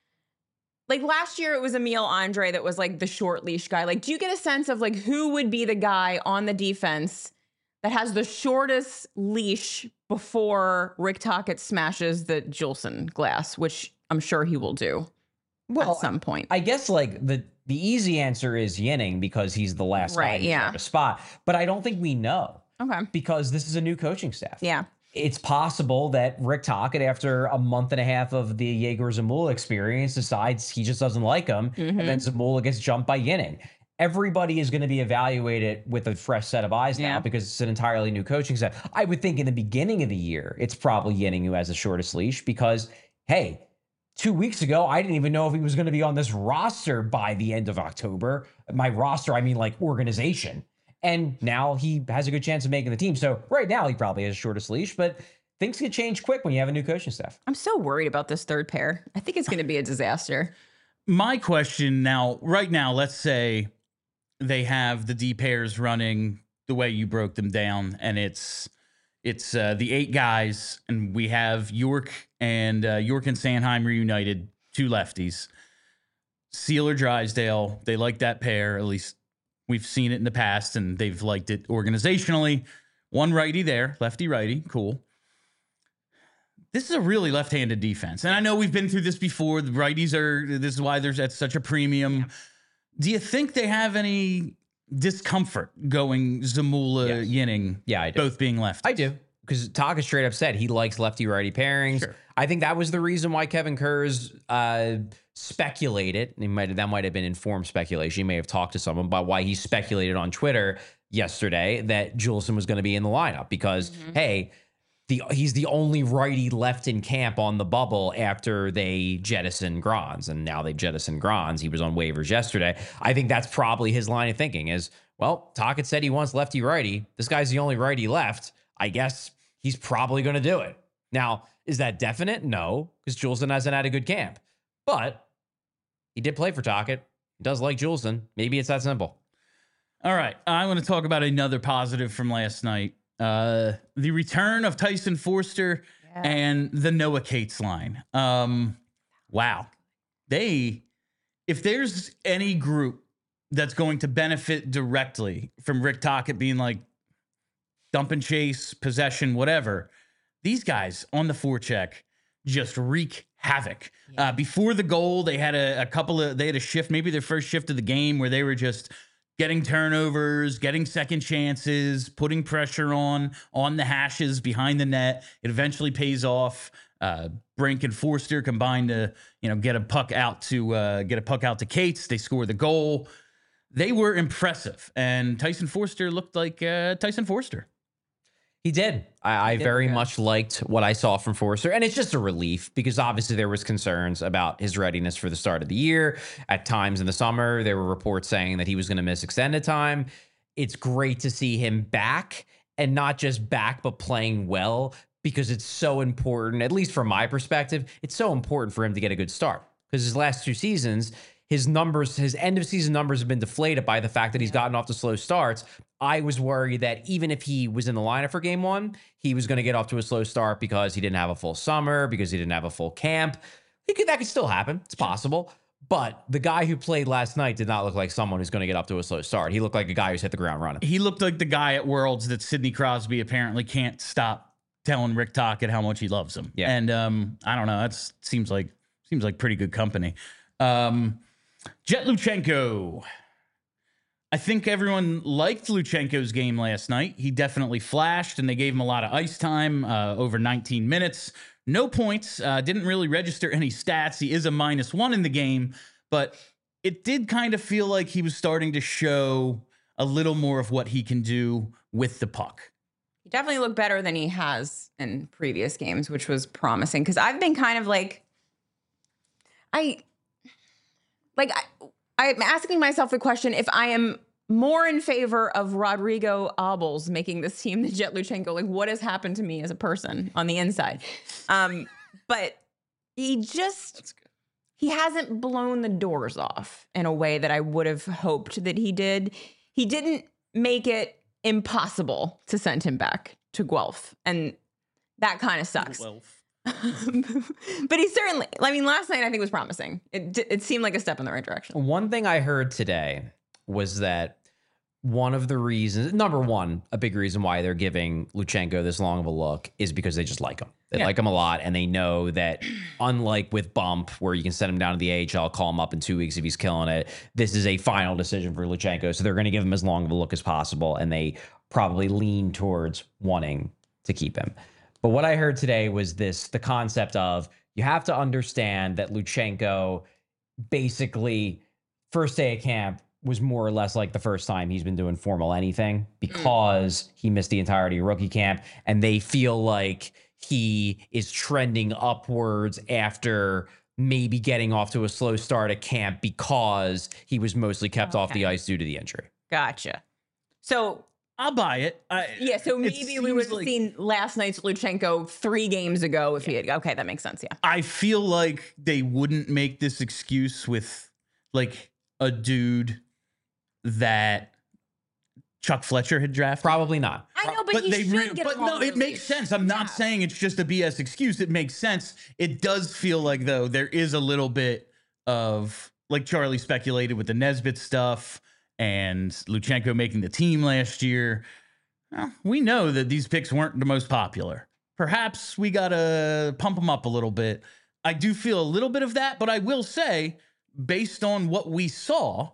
like last year it was Emil Andre that was like the short leash guy. Like, do you get a sense of like who would be the guy on the defense that has the shortest leash before Rick Tocchet smashes the Juleson glass, which I'm sure he will do Well, at some point. I guess like the the easy answer is Yinning because he's the last Right, guy to yeah. start a spot. But I don't think we know Okay. because this is a new coaching staff. Yeah. It's possible that Rick Tocchet, after a month and a half of the Jaeger Zamula experience, decides he just doesn't like him, Mm-hmm. and then Zamula gets jumped by Yinning. Everybody is going to be evaluated with a fresh set of eyes now Yeah. because it's an entirely new coaching staff. I would think in the beginning of the year, it's probably Yinning who has the shortest leash because, hey, two weeks ago, I didn't even know if he was going to be on this roster by the end of October. My roster, I mean like organization. And now he has a good chance of making the team. So right now he probably has the shortest leash, but things can change quick when you have a new coaching staff. I'm so worried about this third pair. I think it's going to be a disaster. My question now, right now, let's say they have the D pairs running the way you broke them down, and it's it's uh, the eight guys, and we have York and uh, York and Sanheim reunited, two lefties. Sealer Drysdale, they like that pair, at least we've seen it in the past, and they've liked it organizationally. One righty there, lefty righty, cool. This is a really left-handed defense, and I know we've been through this before. The righties are. This is why there's at such a premium. Yeah. Do you think they have any discomfort going Zamula, Yes. Yinning, Yeah, I do. both being lefties? I do. Because Tocchet straight up said he likes lefty-righty pairings. Sure. I think that was the reason why Kevin Kurz uh, speculated. He might that might have been informed speculation. He may have talked to someone about why he speculated on Twitter yesterday that Juleson was going to be in the lineup because, mm-hmm. hey, the he's the only righty left in camp on the bubble after they jettison Granz, and now they jettison Granz. He was on waivers yesterday. I think that's probably his line of thinking is, well, Tocchet said he wants lefty-righty. This guy's the only righty left. I guess he's probably going to do it. Now, is that definite? No, because Juleson hasn't had a good camp. But he did play for Tocchet. He does like Juleson. Maybe it's that simple. All right. I want to talk about another positive from last night. Uh, the return of Tyson Forster yeah. and the Noah Cates line. Um, wow. They, if there's any group that's going to benefit directly from Rick Tocchet being like, dump and chase, possession, whatever. These guys on the forecheck just wreak havoc. Yeah. Uh, before the goal, they had a, a couple of, they had a shift, maybe their first shift of the game where they were just getting turnovers, getting second chances, putting pressure on, on the hashes behind the net. It eventually pays off. Uh, Brink and Forster combined to, you know, get a puck out to, uh, get a puck out to Cates. They score the goal. They were impressive. And Tyson Forster looked like uh, Tyson Forster. He did. I, I very much liked what I saw from Forster. And it's just a relief because obviously there was concerns about his readiness for the start of the year. At times in the summer, there were reports saying that he was going to miss extended time. It's great to see him back, and not just back, but playing well, because it's so important, at least from my perspective, it's so important for him to get a good start. Because his last two seasons, his numbers, his end of season numbers have been deflated by the fact that he's gotten off to slow starts. I was worried that even if he was in the lineup for game one, he was going to get off to a slow start because he didn't have a full summer, because he didn't have a full camp. He could, that could still happen. It's possible. But the guy who played last night did not look like someone who's going to get up to a slow start. He looked like a guy who's hit the ground running. He looked like the guy at Worlds that Sidney Crosby apparently can't stop telling Rick Tocchet how much he loves him. Yeah. And um, I don't know. That seems like seems like pretty good company. Um, Jet Luchenko. I think everyone liked Luchenko's game last night. He definitely flashed, and they gave him a lot of ice time, uh, over nineteen minutes. No points. Uh, didn't really register any stats. He is a minus one in the game, but it did kind of feel like he was starting to show a little more of what he can do with the puck. He definitely looked better than he has in previous games, which was promising. Because I've been kind of like, I, like, I, I'm asking myself the question if I am more in favor of Rodrigo Abels making this team than Jet Luchenko. Like, what has happened to me as a person on the inside? Um, but he just, he hasn't blown the doors off in a way that I would have hoped that he did. He didn't make it impossible to send him back to Guelph. And that kind of sucks. Guelph. But he certainly, I mean, last night I think was promising. It, it seemed like a step in the right direction. One thing I heard today was that one of the reasons, number one, a big reason why they're giving Luchenko this long of a look is because they just like him. They Yeah. like him a lot, and they know that unlike with Bump, where you can send him down to the A H L, call him up in two weeks if he's killing it, this is a final decision for Luchenko. So they're going to give him as long of a look as possible, and they probably lean towards wanting to keep him. But what I heard today was this, the concept of you have to understand that Luchenko basically first day of camp was more or less like the first time he's been doing formal anything because he missed the entirety of rookie camp, and they feel like he is trending upwards after maybe getting off to a slow start at camp because he was mostly kept off the Okay. ice due to the injury. Gotcha. So, I'll buy it. I, yeah, so it maybe we would seems have like- seen last night's Luchenko three games ago if he had, okay, that makes sense, yeah. I feel like they wouldn't make this excuse with like a dude that Chuck Fletcher had drafted. Probably not. I know, but, he they should re- get but along no, with it makes Luce. sense. I'm not Yeah. saying it's just a B S excuse. It makes sense. It does feel like though there is a little bit of like Charlie speculated with the Nesbitt stuff and Luchenko making the team last year. Well, we know that these picks weren't the most popular. Perhaps we gotta pump them up a little bit. I do feel a little bit of that, but I will say, based on what we saw,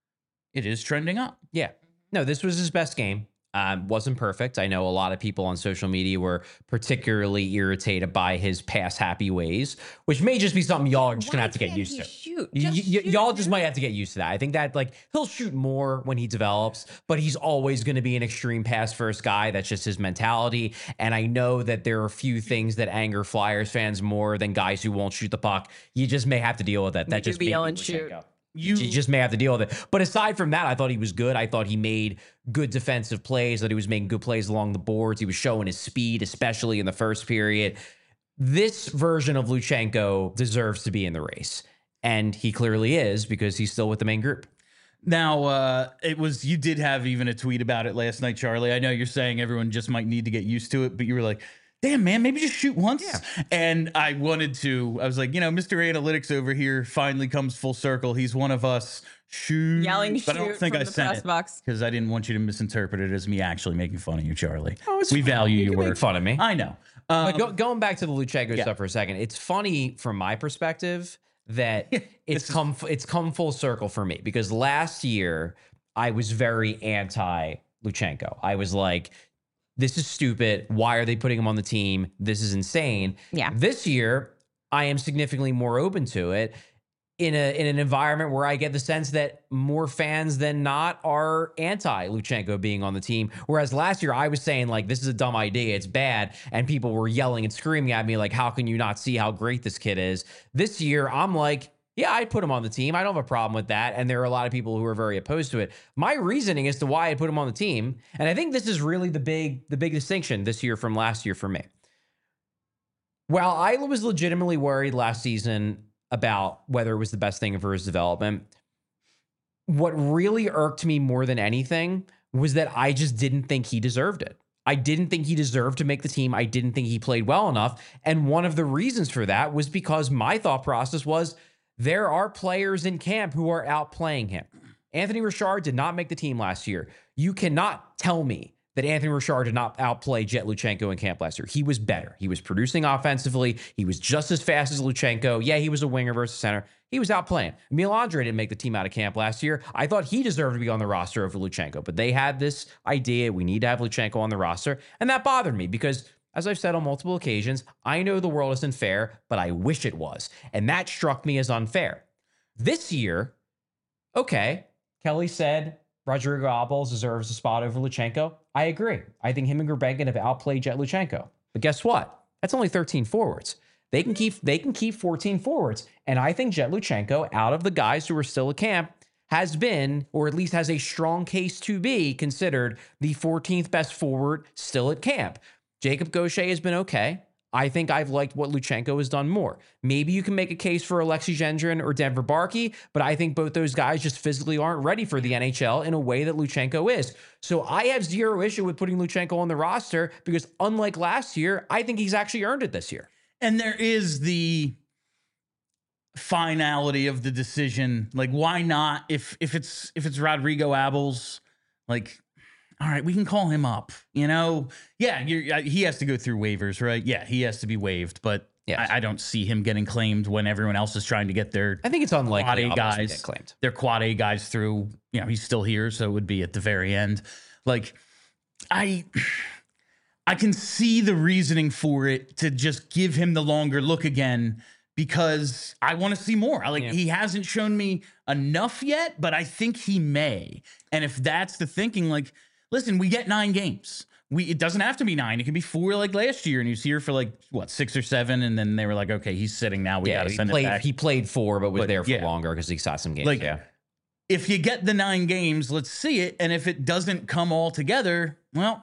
it is trending up. Yeah. No, this was his best game. Um, wasn't perfect. I know a lot of people on social media were particularly irritated by his pass happy ways, which may just be something y'all are just going to Why have to get can't used he to. Shoot? Y- Just y- shoot, y'all dude. just might have to get used to that. I think that like he'll shoot more when he develops, but he's always going to be an extreme pass first guy. That's just his mentality. And I know that there are a few things that anger Flyers fans more than guys who won't shoot the puck. You just may have to deal with that. That do just be may be yelling, shoot. Luchenko. You You just may have to deal with it. But aside from that, I thought he was good. I thought he made good defensive plays, that he was making good plays along the boards. He was showing his speed, especially in the first period. This version of Luchenko deserves to be in the race. And he clearly is because he's still with the main group. Now, uh, it was, you did have even a tweet about it last night, Charlie. I know you're saying everyone just might need to get used to it, but you were like, damn, man, maybe just shoot once. And I wanted to, I was like, you know, Mister Analytics over here finally comes full circle. He's one of us. Shoot. Yelling But I don't shoot think from I the sent press it box. because I didn't want you to misinterpret it as me actually making fun of you, Charlie. Oh, it's we fine. value You your can make work. fun of me. I know. Um, But go, going back to the Luchenko yeah. stuff for a second, it's funny from my perspective that This it's is- come it's come full circle for me because last year I was very anti Luchenko. I was like, this is stupid. Why are they putting him on the team? This is insane. Yeah. This year, I am significantly more open to it in a in an environment where I get the sense that more fans than not are anti Luchenko being on the team. Whereas last year I was saying like, this is a dumb idea, it's bad, and people were yelling and screaming at me like, how can you not see how great this kid is? This year I'm like, yeah, I'd put him on the team. I don't have a problem with that. And there are a lot of people who are very opposed to it. My reasoning as to why I put him on the team, and I think this is really the big the big distinction this year from last year for me. While I was legitimately worried last season about whether it was the best thing for his development, what really irked me more than anything was that I just didn't think he deserved it. I didn't think he deserved to make the team. I didn't think he played well enough. And one of the reasons for that was because my thought process was there are players in camp who are outplaying him. Anthony Richard did not make the team last year. You cannot tell me that Anthony Richard did not outplay Jet Luchenko in camp last year. He was better. He was producing offensively. He was just as fast as Luchenko. Yeah, he was a winger versus center. He was outplaying. Emil Andre didn't make the team out of camp last year. I thought he deserved to be on the roster over Luchenko, but they had this idea, we need to have Luchenko on the roster, and that bothered me because, as I've said on multiple occasions, I know the world isn't fair, but I wish it was, and that struck me as unfair. This year, okay, Kelly said Rodrigo Abels deserves a spot over Luchenko. I agree. I think him and Gerbenkin have outplayed Jet Luchenko. But guess what? That's only thirteen forwards. They can keep they can keep fourteen forwards. And I think Jet Luchenko, out of the guys who are still at camp, has been, or at least has a strong case to be, considered the fourteenth best forward still at camp. Jacob Gaucher has been okay. I think I've liked what Luchenko has done more. Maybe you can make a case for Alexei Gendron or Denver Barkey, but I think both those guys just physically aren't ready for the N H L in a way that Luchenko is. So I have zero issue with putting Luchenko on the roster because unlike last year, I think he's actually earned it this year. And there is the finality of the decision. Like, why not? If if it's if it's Rodrigo Abels, like, all right, we can call him up. You know, yeah, you're, he has to go through waivers, right? Yeah, he has to be waived, but yes. I, I don't see him getting claimed when everyone else is trying to get their. I think it's unlikely quad A guys get claimed. Their quad A guys through. You know, he's still here, so it would be at the very end. Like, I. I can see the reasoning for it to just give him the longer look again because I want to see more. I like yeah. He hasn't shown me enough yet, but I think he may. And if that's the thinking, like, listen, we get nine games. We it doesn't have to be nine. It can be four like last year, and he was here for like what six or seven, and then they were like, okay, he's sitting now. We yeah, got to send played, it back. He played four, but was but, there for yeah. longer because he saw some games. Like, yeah. If you get the nine games, let's see it. And if it doesn't come all together, well.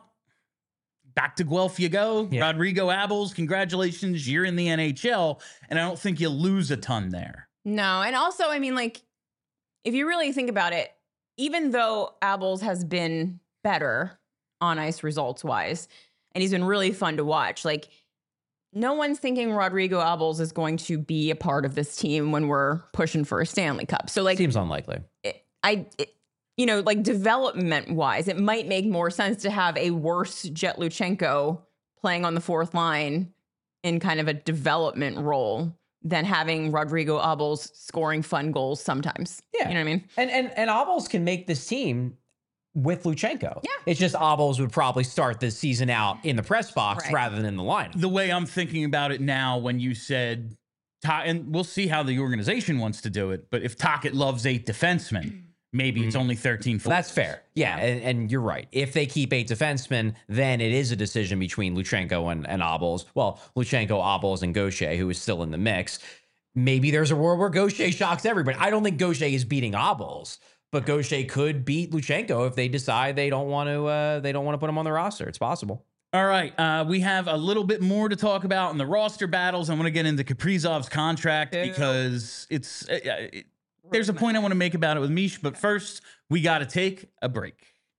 Back to Guelph you go. Yeah. Rodrigo Abels, congratulations. You're in the N H L. And I don't think you lose a ton there. No. And also, I mean, like, if you really think about it, even though Abels has been better on ice results wise, and he's been really fun to watch, like, no one's thinking Rodrigo Abels is going to be a part of this team when we're pushing for a Stanley Cup. So, like, seems unlikely. It, I, it, you know, like development wise, it might make more sense to have a worse Jet Luchenko playing on the fourth line in kind of a development role than having Rodrigo Abels scoring fun goals sometimes. Yeah. You know what I mean? And and and Abels can make this team with Luchenko. Yeah. It's just Abels would probably start this season out in the press box right. rather than in the lineup. The way I'm thinking about it now, when you said, and we'll see how the organization wants to do it, but if Tocchet loves eight defensemen, maybe mm-hmm. it's only thirteen. Well, that's fair. Yeah, yeah. And, and you're right. If they keep eight defensemen, then it is a decision between Luchenko and, and Abels. Well, Luchenko, Abels, and Gaucher, who is still in the mix. Maybe there's a world where Gaucher shocks everybody. I don't think Gaucher is beating Abels, but Gaucher could beat Luchenko if they decide they don't want to. Uh, they don't want to put him on the roster. It's possible. All right, uh, we have a little bit more to talk about in the roster battles. I want to get into Kaprizov's contract Ew. because it's. Uh, it, There's a point I want to make about it with Mish, but first, we got to take a break.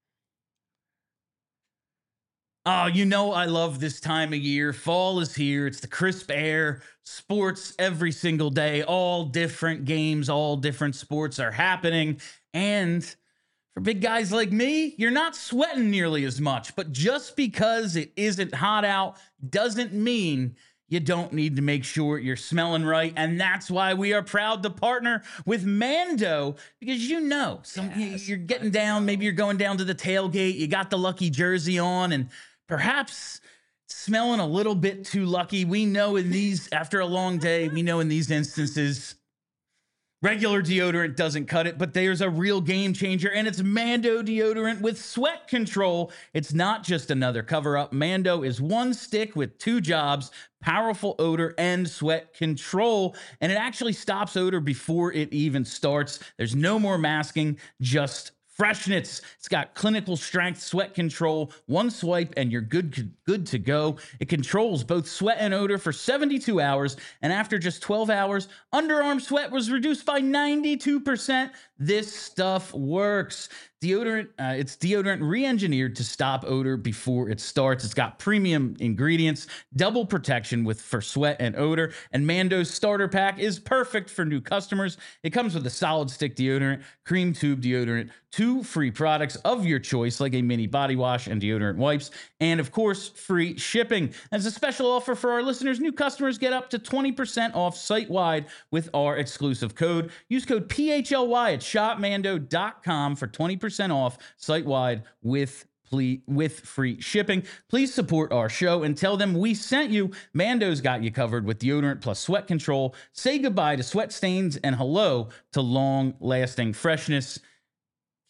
Oh, you know I love this time of year. Fall is here. It's the crisp air. Sports every single day. All different games, all different sports are happening. And for big guys like me, you're not sweating nearly as much. But just because it isn't hot out doesn't mean you don't need to make sure you're smelling right. And that's why we are proud to partner with Mando, because you know, some, yes, you're getting down, maybe you're going down to the tailgate, you got the lucky jersey on, and perhaps smelling a little bit too lucky. We know in these, after a long day, we know in these instances, regular deodorant doesn't cut it, but there's a real game changer, and it's Mando deodorant with sweat control. It's not just another cover-up. Mando is one stick with two jobs, powerful odor and sweat control, and it actually stops odor before it even starts. There's no more masking, just freshness. It's got clinical strength sweat control. One swipe and you're good, good to go. It controls both sweat and odor for seventy-two hours. And after just twelve hours, underarm sweat was reduced by ninety-two percent. This stuff works. Deodorant, uh, it's deodorant re-engineered to stop odor before it starts. It's got premium ingredients, double protection with for sweat and odor, and Mando's starter pack is perfect for new customers. It comes with a solid stick deodorant, cream tube deodorant, two free products of your choice, like a mini body wash and deodorant wipes, and of course, free shipping. As a special offer for our listeners, new customers get up to twenty percent off site-wide with our exclusive code. Use code P H L Y at shop mando dot com for twenty percent off site-wide with with free shipping. Please support our show and tell them we sent you. Mando's got you covered with deodorant plus sweat control. Say goodbye to sweat stains and hello to long-lasting freshness.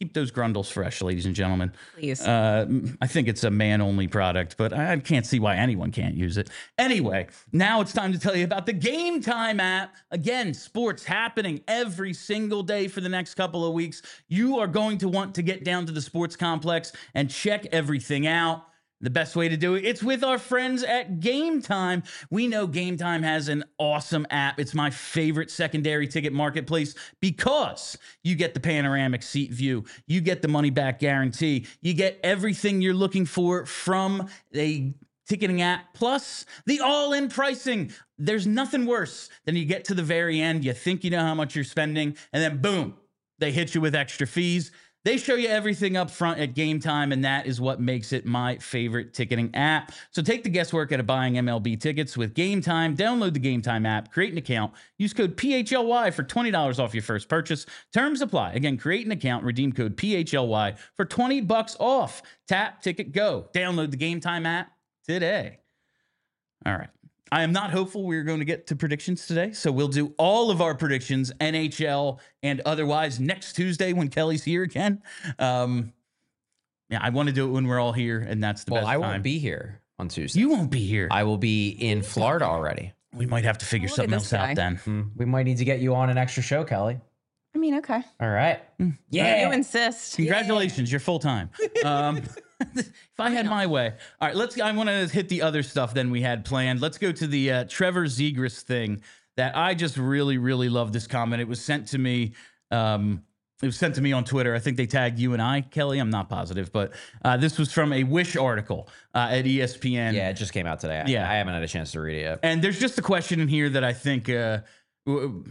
Keep those grundles fresh, ladies and gentlemen. Please. Uh, I think it's a man-only product, but I can't see why anyone can't use it. Anyway, now it's time to tell you about the Game Time app. Again, sports happening every single day for the next couple of weeks. You are going to want to get down to the sports complex and check everything out. The best way to do it, it's with our friends at Game Time. We know Game Time has an awesome app. It's my favorite secondary ticket marketplace because you get the panoramic seat view, you get the money back guarantee, you get everything you're looking for from a ticketing app, plus the all-in pricing. There's nothing worse than you get to the very end, you think you know how much you're spending, and then boom, they hit you with extra fees. They show you everything up front at Game Time, and that is what makes it my favorite ticketing app. So take the guesswork out of buying M L B tickets with Game Time. Download the Game Time app, create an account, use code P H L Y for twenty dollars off your first purchase. Terms apply. Again, create an account, redeem code P H L Y for twenty bucks off. Tap, ticket, go. Download the Game Time app today. All right. I am not hopeful we're going to get to predictions today, so we'll do all of our predictions, N H L and otherwise, next Tuesday when Kelly's here again. Um, yeah, I want to do it when we're all here, and that's the Well, best I time. won't be here on Tuesday. You won't be here. I will be in Florida already. We might have to figure Look at something this else guy. out then. Hmm. We might need to get you on an extra show, Kelly. I mean, okay. All right. You insist. Congratulations, you're full time. Um, if I had my way. All right, let's. I want to hit the other stuff than we had planned. Let's go to the uh, Trevor Zegras thing that I just really, really love this comment. It was sent to me. Um, it was sent to me on Twitter. I think they tagged you and I, Kelly. I'm not positive, but uh, this was from a Wish article uh, at E S P N. Yeah, it just came out today. I, Yeah. I haven't had a chance to read it yet. And there's just a question in here that I think uh, w-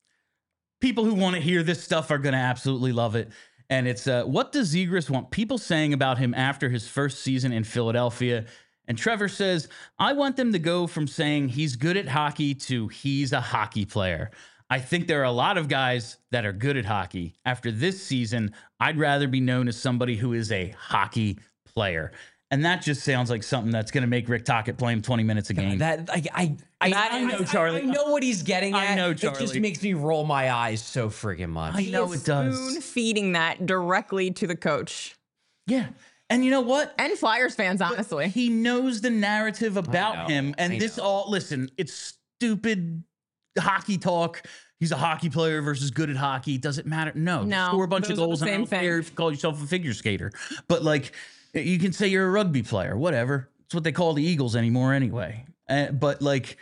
people who want to hear this stuff are going to absolutely love it. And it's, uh, what does Zegras want people saying about him after his first season in Philadelphia? And Trevor says, I want them to go from saying he's good at hockey to he's a hockey player. I think there are a lot of guys that are good at hockey. After this season, I'd rather be known as somebody who is a hockey player. And that just sounds like something that's going to make Rick Tocchet play him twenty minutes a game. That I I I, I know, Charlie. I, know what he's getting I at. know, It just Charlie. makes me roll my eyes so friggin' much. I know it does. Spoon feeding that directly to the coach Yeah. And you know what? and Flyers fans, honestly. He knows the narrative about know, him. And I this know. all, listen, it's stupid hockey talk. He's a hockey player versus good at hockey. Does it matter? No. No, Score a bunch of those are the goals and I same don't thing. care if you call yourself a figure skater. But like, you can say you're a rugby player, whatever. It's what they call the Eagles anymore anyway. Uh, but like,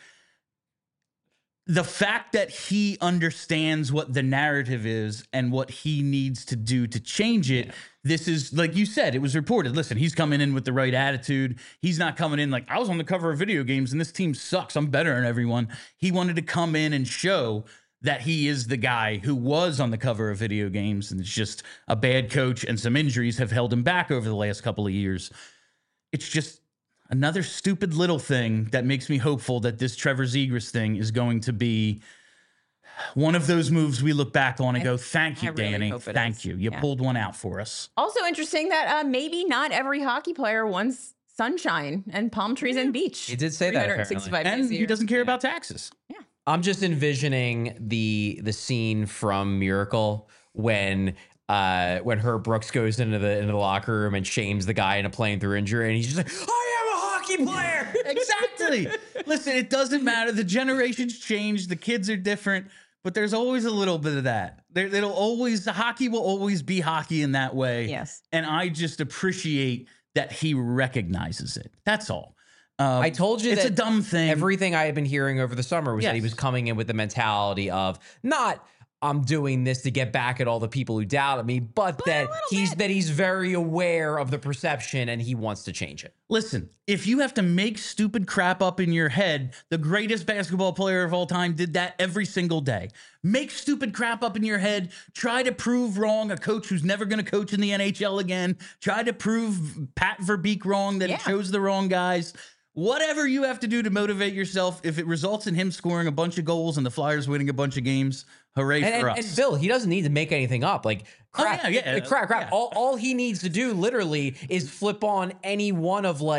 the fact that he understands what the narrative is and what he needs to do to change it, this is, like you said, it was reported. Listen, he's coming in with the right attitude. He's not coming in like, I was on the cover of video games and this team sucks. I'm better than everyone. He wanted to come in and show that he is the guy who was on the cover of video games, and it's just a bad coach and some injuries have held him back over the last couple of years. It's just another stupid little thing that makes me hopeful that this Trevor Zegras thing is going to be one of those moves we look back on and go, thank you, I really Danny. hope it Thank is. you. You Yeah. pulled one out for us. Also interesting that uh, maybe not every hockey player wants sunshine and palm trees and beach. He did say that, three hundred sixty-five days And a he year. doesn't care about taxes. I'm just envisioning the the scene from Miracle when uh when Herb Brooks goes into the into the locker room and shames the guy into playing through injury, and he's just like, I am a hockey player. Exactly. Listen, it doesn't matter. The generations change. The kids are different, but there's always a little bit of that. There, it'll always, the hockey will always be hockey in that way. Yes. And I just appreciate that he recognizes it. That's all. Um, I told you it's that a dumb thing. Everything I had been hearing over the summer was that he Yes. was coming in with the mentality of not I'm doing this to get back at all the people who doubted me, but, that he's that he's very aware of the perception and he wants to change it. Listen, if you have to make stupid crap up in your head, the greatest basketball player of all time did that every single day. Make stupid crap up in your head. Try to prove wrong a coach who's never going to coach in the N H L again. Try to prove Pat Verbeek wrong, that Yeah. he chose the wrong guys. Whatever you have to do to motivate yourself, if it results in him scoring a bunch of goals and the Flyers winning a bunch of games, hooray And, for and, us. and Bill, he doesn't need to make anything up. Like crap, Oh, yeah, yeah, like, crap, crap. yeah. All, all he needs to do literally is flip on any one of like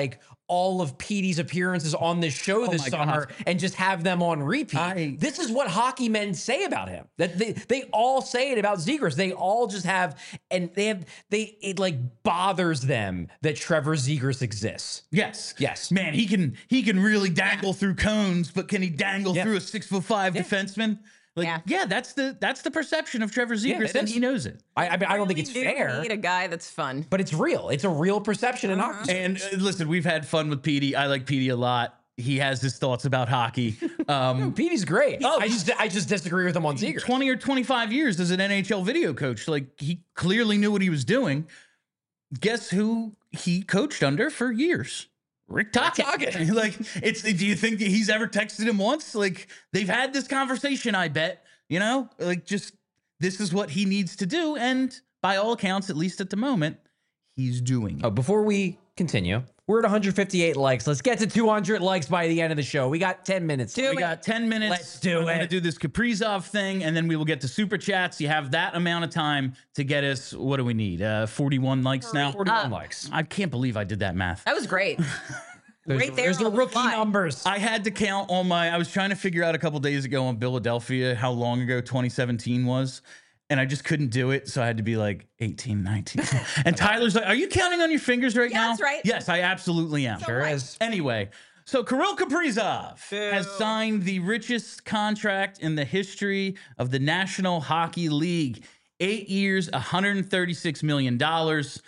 all of Petey's appearances on this show this my summer God. and just have them on repeat. I- this is what hockey men say about him. That they, they all say it about Zegras. They all just have, and they have, they, it like bothers them that Trevor Zegras exists. Yes. Yes. Man, he can he can really dangle through cones, but can he dangle Yeah. through a six foot five defenseman? Like, yeah. Yeah. that's the that's the perception of Trevor Zegras, it and is. he knows it. I, I mean, I don't think We it's do fair, need a guy that's fun. but it's real. It's a real perception in hockey. And uh, listen, we've had fun with Petey. I like Petey a lot. He has his thoughts about hockey. Um, Petey's great. Oh, I just I just disagree with him on Zegras. twenty or twenty-five years as an N H L video coach. Like, he clearly knew what he was doing. Guess who he coached under for years? Rick Tocchet. Tocchet. Like, it's, do you think that he's ever texted him once? Like, they've had this conversation, I bet, you know, like, just, this is what he needs to do. And by all accounts, at least at the moment, he's doing it. Oh, before we continue, we're at one hundred fifty-eight likes. Let's get to two hundred likes by the end of the show. We got ten minutes. Do We got ten minutes. Let's do I'm going to it. do this Kaprizov thing, and then we will get to super chats. You have that amount of time to get us. What do we need? Uh, forty-one likes now. forty-one Uh, likes. I can't believe I did that math. That was great. There's, right there there's the on the rookie fly. numbers. I had to count on my. I was trying to figure out a couple days ago on Philadelphia how long ago twenty seventeen was, and I just couldn't do it. So I had to be like eighteen, nineteen. And Tyler's like, "Are you counting on your fingers right Yeah, now?" that's right. Yes, I absolutely am. Sure is. Anyway, so Kirill Kaprizov has signed the richest contract in the history of the National Hockey League. Eight years, one hundred thirty-six million dollars.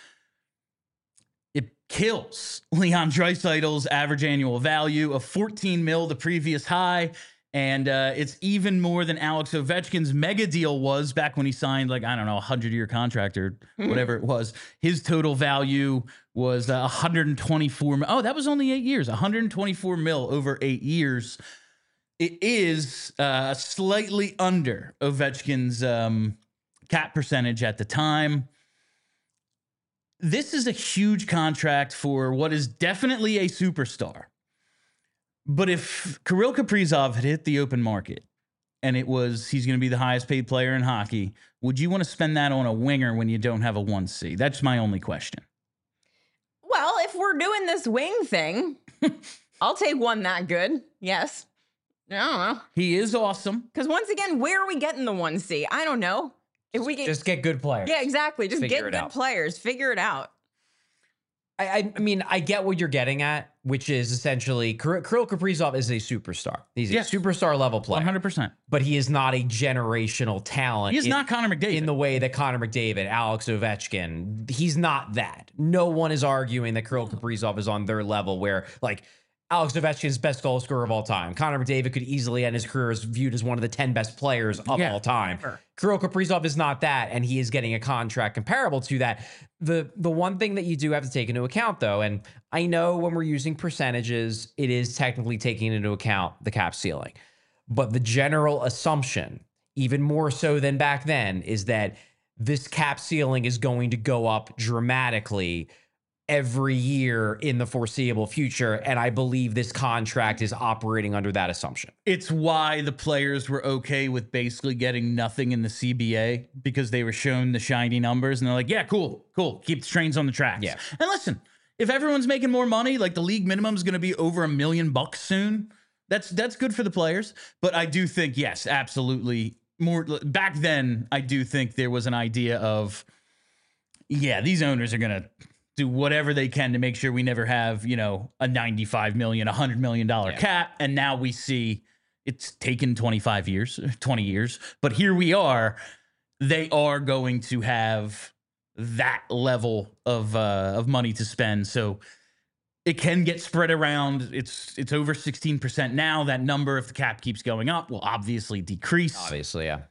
It kills Leon Draisaitl's average annual value of fourteen mil, the previous high. And uh, it's even more than Alex Ovechkin's mega deal was back when he signed, like, I don't know, a hundred-year contract or whatever it was. His total value was uh, one hundred twenty-four mil. Oh, that was only eight years. one hundred twenty-four mil over eight years. It is uh, slightly under Ovechkin's um, cap percentage at the time. This is a huge contract for what is definitely a superstar. But if Kirill Kaprizov had hit the open market and it was he's going to be the highest paid player in hockey, would you want to spend that on a winger when you don't have a one C? That's my only question. Well, if we're doing this wing thing, I'll take one that good. Yes. I don't know. He is awesome. Because once again, where are we getting the one C? I don't know. If we get, Just get good players. yeah, exactly. Just Figure get it good out. players. Figure it out. I, I I mean, I get what you're getting at, which is essentially Kirill Kirill Kaprizov is a superstar. He's a Yes. superstar level player, one hundred percent. but he is not a generational talent. He is in- not Connor McDavid. in the way that Connor McDavid, Alex Ovechkin, he's not that. No one is arguing that Kirill Kaprizov is on their level where, like, Alex Ovechkin's best goal scorer of all time. Connor McDavid could easily end his career as viewed as one of the ten best players of Yeah, all time. ever. Kirill Kaprizov is not that, and he is getting a contract comparable to that. The the one thing that you do have to take into account, though, and I know when we're using percentages, it is technically taking into account the cap ceiling. But the general assumption, even more so than back then, is that this cap ceiling is going to go up dramatically every year in the foreseeable future. And I believe this contract is operating under that assumption. It's why the players were okay with basically getting nothing in the C B A because they were shown the shiny numbers and they're like, yeah, cool, cool. Keep the trains on the tracks. Yeah. And listen, if everyone's making more money, like the league minimum is going to be over a million bucks soon. That's that's good for the players. But I do think, yes, absolutely. More back then, I do think there was an idea of, yeah, these owners are going to do whatever they can to make sure we never have, you know, a ninety-five million, a hundred million dollar Yeah. cap. And now we see it's taken twenty-five years, twenty years, but here we are. They are going to have that level of uh, of money to spend. So it can get spread around. It's it's over sixteen percent now. That number, if the cap keeps going up, will obviously decrease. Obviously, yeah.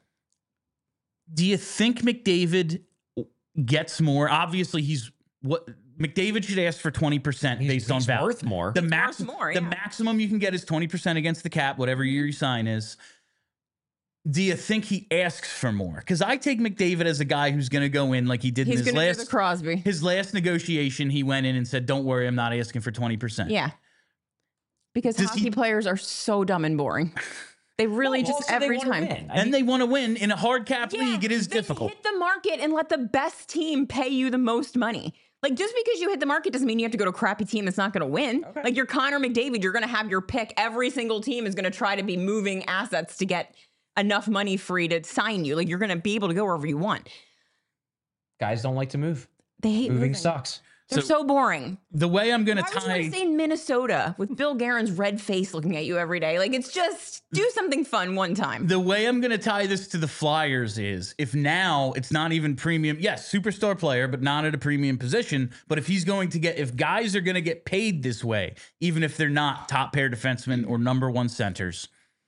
Do you think McDavid gets more? Obviously, he's what McDavid should ask for twenty percent He's, based on he's value. worth more. The max, more, the yeah. maximum you can get is twenty percent against the cap, whatever year you sign is. Do you think he asks for more? Because I take McDavid as a guy who's going to go in like he did He's in his going to do the last Crosby. his last negotiation. He went in and said, "Don't worry, I'm not asking for twenty percent." Yeah. Because Does hockey he- players are so dumb and boring. They really Well, just also they every wanna time. win. I And mean, they want to win in a hard cap Yeah, league. It is then difficult. Hit the market and let the best team pay you the most money. Like, just because you hit the market doesn't mean you have to go to a crappy team that's not going to win. Okay. Like, you're Connor McDavid, you're going to have your pick. Every single team is going to try to be moving assets to get enough money free to sign you. Like, you're going to be able to go wherever you want. Guys don't like to move. They hate Moving moving. sucks. They're so, So- boring. The way I'm going to Why would you tie. want to stay in Minnesota with Bill Guerin's red face looking at you every day? Like, it's just do something fun one time. The way I'm going to tie this to the Flyers is if now it's not even premium, yes, superstar player, but not at a premium position. But if he's going to get, if guys are going to get paid this way, even if they're not top pair defensemen or number one centers,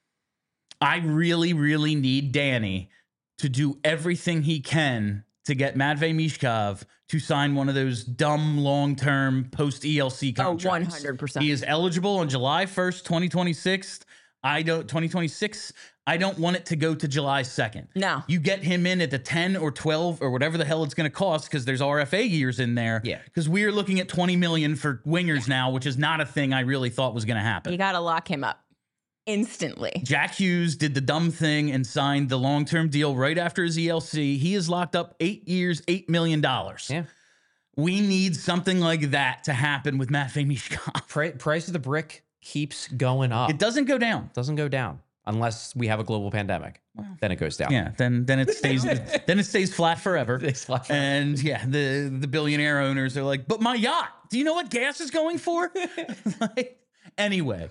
I really, really need Danny to do everything he can to get Matvei Mishkov to sign one of those dumb long-term post-E L C Oh, contracts. one hundred percent. He is eligible on July first, twenty twenty-six. I don't twenty twenty-six. I don't want it to go to July second. No. You get him in at the ten or twelve or whatever the hell it's going to cost because there's R F A years in there. Yeah. Because we are looking at twenty million for wingers now, which is not a thing I really thought was going to happen. You got to lock him up instantly. Jack Hughes did the dumb thing and signed the long-term deal right after his E L C. He is locked up eight years, eight million dollars. Yeah. We need something like that to happen with Matvei Mishkov. Pri- price of the brick keeps going up. It doesn't go down. doesn't go down unless we have a global pandemic. Then it goes down. Yeah, then then it stays then it stays flat forever. It's flat forever. And yeah, the the billionaire owners are like, but my yacht. Do you know what gas is going for? Like, anyway,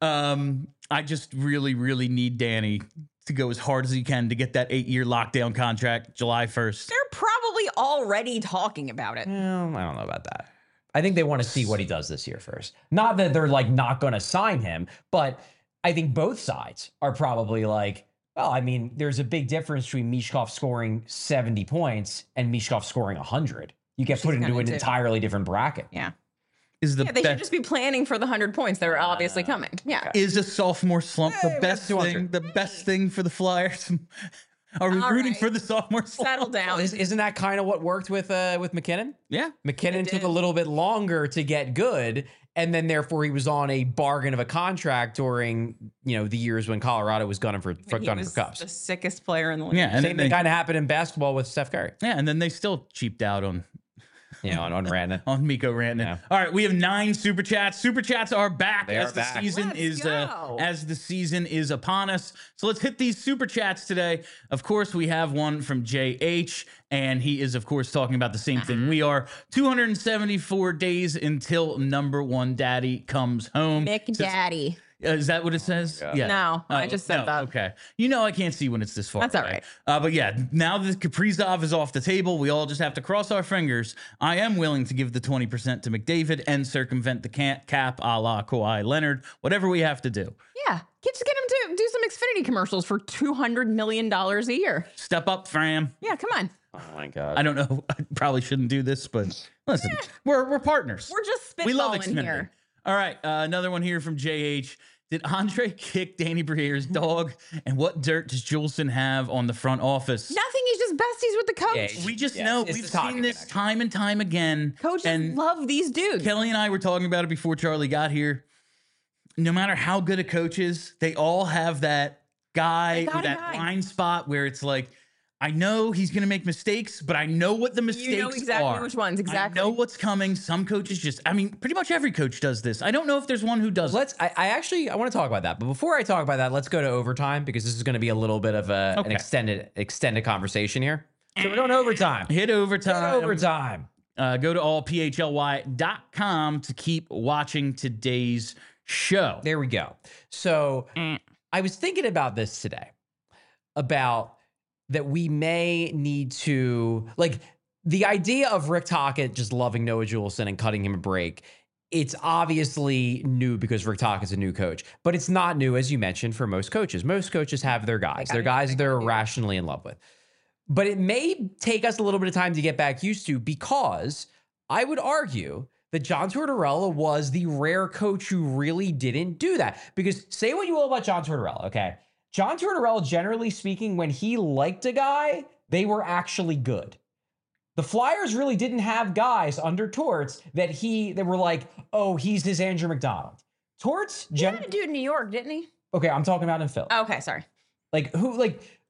um, I just really really need Danny to go as hard as he can to get that eight year lockdown contract July first. They're probably already talking about it. Well, I don't know about that. I think they want to see what he does this year first. Not that they're like not going to sign him, but I think both sides are probably like, well, I mean, there's a big difference between Mishkov scoring seventy points and Mishkov scoring one hundred. You get Which put he's into gonna an do. entirely different bracket. Yeah. Is the Yeah, they should best just be planning for the one hundred points that are obviously coming. Yeah. is a sophomore slump Hey, the we best got two thing? hundred. The best thing for the Flyers? Are we All rooting right. for the sophomore slump? Settle down. Is, isn't that kind of what worked with uh, with McKinnon? Yeah. McKinnon It took did. a little bit longer to get good, and then therefore he was on a bargain of a contract during you know the years when Colorado was gunning for, for He gunning was for cups. the sickest player in the league. Yeah, and Same then thing they, kind of happened in basketball with Steph Curry. yeah, and then they still cheaped out on You know, on, on Randy. on Miko Rantanen. Yeah. All right, we have nine super chats. Super chats are back They as are the back. season Let's is uh, go. as the season is upon us. So let's hit these super chats today. Of course, we have one from J H, and he is of course talking about the same thing we are. two hundred seventy-four days until number one daddy comes home. Mick Says- Daddy. Uh, is that what it says? Yeah. No, I just said no, that. Okay. You know I can't see when it's this far. That's all away. right. Uh, but yeah, now that Kaprizov is off the table, we all just have to cross our fingers. I am willing to give the twenty percent to McDavid and circumvent the ca- cap a la Kawhi Leonard, whatever we have to do. Yeah. Just get him to do some Xfinity commercials for two hundred million dollars a year. Step up, Fram. Yeah, come on. Oh my god. I don't know. I probably shouldn't do this, but listen, we're, we're partners. We're just we love spitballing Xfinity. here. All right. Uh, another one here from J H. Did Andre kick Danny Briere's dog? And what dirt does Juleson have on the front office? Nothing. He's just besties with the coach. Yeah, We just Yes, know it's we've the talking seen this connection. time and time again. Coaches and love these dudes. Kelly and I were talking about it before Charlie got here. No matter how good a coach is, they all have that guy They got or a that guy. blind spot where it's like, I know he's going to make mistakes, but I know what the mistakes You know exactly are. which ones, exactly. I know what's coming. Some coaches just, I mean, pretty much every coach does this. I don't know if there's one who does. Let's. I, I actually I want to talk about that, but before I talk about that, let's go to overtime because this is going to be a little bit of a, an Okay. extended extended conversation here. So we're going overtime. Hit overtime. Hit overtime. Uh, go to all p h l y dot com to keep watching today's show. There we go. So Mm. I was thinking about this today about that we may need to like the idea of Rick Tocchet just loving Noah Juleson and cutting him a break. It's obviously new because Rick Tocchet's a new coach, but it's not new, as you mentioned, for most coaches. Most coaches have their guys, their guys they're irrationally in love with. But it may take us a little bit of time to get back used to because I would argue that John Tortorella was the rare coach who really didn't do that. Because say what you will about John Tortorella, okay? John Tortorella, generally speaking, when he liked a guy, they were actually good. The Flyers really didn't have guys under Torts that he that were like, oh, he's his Andrew McDonald. Torts, He gen- had a dude in New York, didn't he? okay, I'm talking about in Phil. Okay, sorry. Like who, like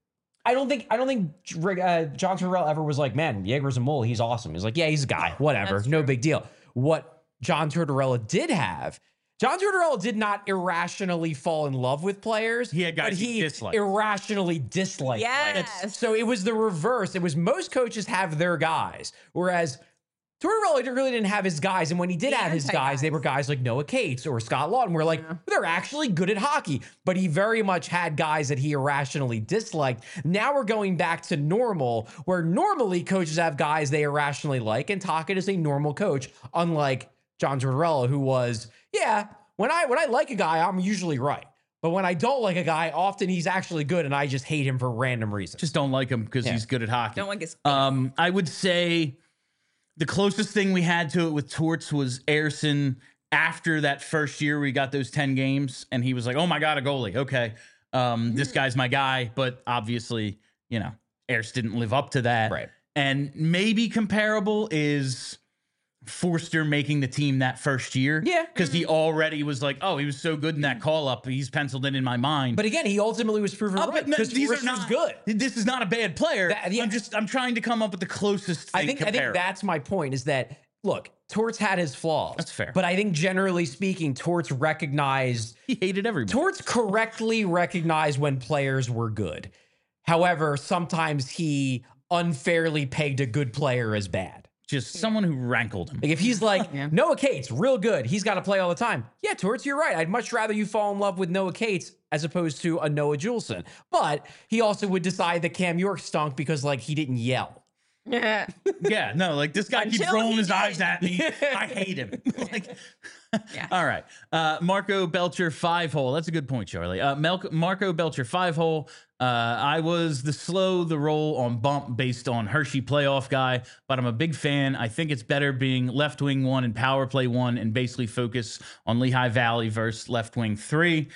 I don't think I don't think uh, John Tortorella ever was like, man, Jaeger's a mole. He's awesome. He's like, yeah, he's a guy. Whatever. No big deal. What John Tortorella did have, John Tortorella did not irrationally fall in love with players. He had guys but he he disliked. irrationally disliked Yes. players. So it was the reverse. It was most coaches have their guys, whereas Tortorella really didn't have his guys. And when he did The have his anti-guys. guys, they were guys like Noah Cates or Scott Lawton. We're like, they're actually good at hockey. But he very much had guys that he irrationally disliked. Now we're going back to normal, where normally coaches have guys they irrationally like. And Tocchet is a normal coach, unlike John Tortorella, who was, yeah, when I when I like a guy, I'm usually right. But when I don't like a guy, often he's actually good, and I just hate him for random reasons. Just don't like him because Yeah. he's good at hockey. Don't like his. Um, I would say the closest thing we had to it with Torts was Ayerson after that first year we got those ten games, and he was like, oh my God, a goalie. Okay. Um, this guy's my guy. But obviously, you know, Ayerson didn't live up to that. Right. And maybe comparable is Forster making the team that first year. Yeah. Because he already was like, oh, he was so good in that call up. He's penciled in in my mind. But again, he ultimately was proven Oh, right but no, because these are Torts not was good. This is not a bad player. That- yeah. I'm just I'm trying to come up with the closest thing I think I think comparable. that's my point is that look, Torts had his flaws. That's fair. But I think generally speaking, Torts recognized He hated everybody. Torts correctly recognized when players were good. However, sometimes he unfairly pegged a good player as bad. Just someone who rankled him. Like if he's like Yeah. Noah Cates, real good, he's got to play all the time. Yeah, Torts, you're right. I'd much rather you fall in love with Noah Cates as opposed to a Noah Juleson. But he also would decide that Cam York stunk because like he didn't yell. Yeah. Yeah, no, like this guy keeps Until rolling he his did. eyes at me. I hate him. Like, Yeah. all right. Uh, Marco Belcher, five hole. That's a good point, Charlie. Uh, Mel- Marco Belcher, five hole. Uh, I was the slow the roll on bump based on Hershey playoff guy, but I'm a big fan. I think it's better being left wing one and power play one and basically focus on Lehigh Valley versus left wing three.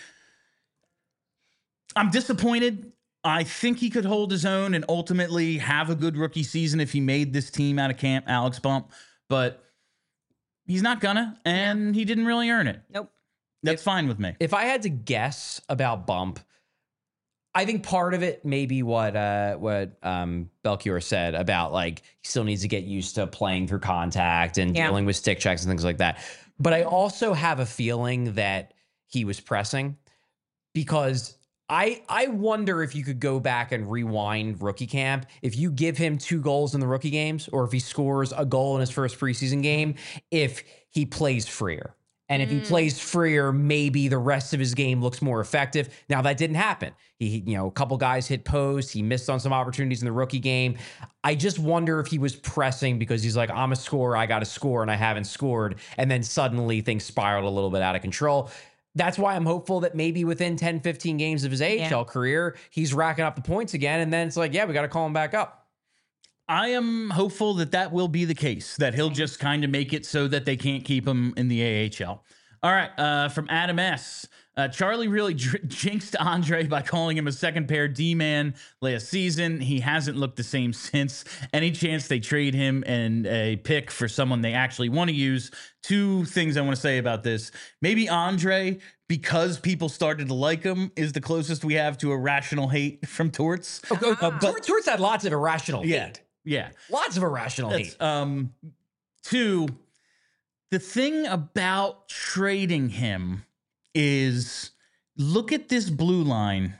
I'm disappointed. I think he could hold his own and ultimately have a good rookie season if he made this team out of camp, Alex Bump, but he's not gonna, and he didn't really earn it. Nope. That's fine with me. If I had to guess about Bump, I think part of it may be what uh, what um, Belchior said about like he still needs to get used to playing through contact and Yeah. dealing with stick checks and things like that. But I also have a feeling that he was pressing because I I wonder if you could go back and rewind rookie camp. If you give him two goals in the rookie games, or if he scores a goal in his first preseason game, if he plays freer. And if he plays freer, maybe the rest of his game looks more effective. Now that didn't happen. He, you know, a couple guys hit post. He missed on some opportunities in the rookie game. I just wonder if he was pressing because he's like, I'm a scorer, I got to score, and I haven't scored. And then suddenly things spiraled a little bit out of control. That's why I'm hopeful that maybe within ten, fifteen games of his A H L Yeah. career, he's racking up the points again. And then it's like, yeah, we got to call him back up. I am hopeful that that will be the case, that he'll just kind of make it so that they can't keep him in the A H L. All right, uh, from Adam S. Uh, Charlie really dr- jinxed Andre by calling him a second pair D-man last season. He hasn't looked the same since. Any chance they trade him and a pick for someone they actually want to use? Two things I want to say about this. Maybe Andre, because people started to like him, is the closest we have to a rational hate from Torts. Uh, but- Torts Torts had lots of irrational Yeah, hate. yeah. Lots of irrational That's, hate. um, two, the thing about trading him is look at this blue line.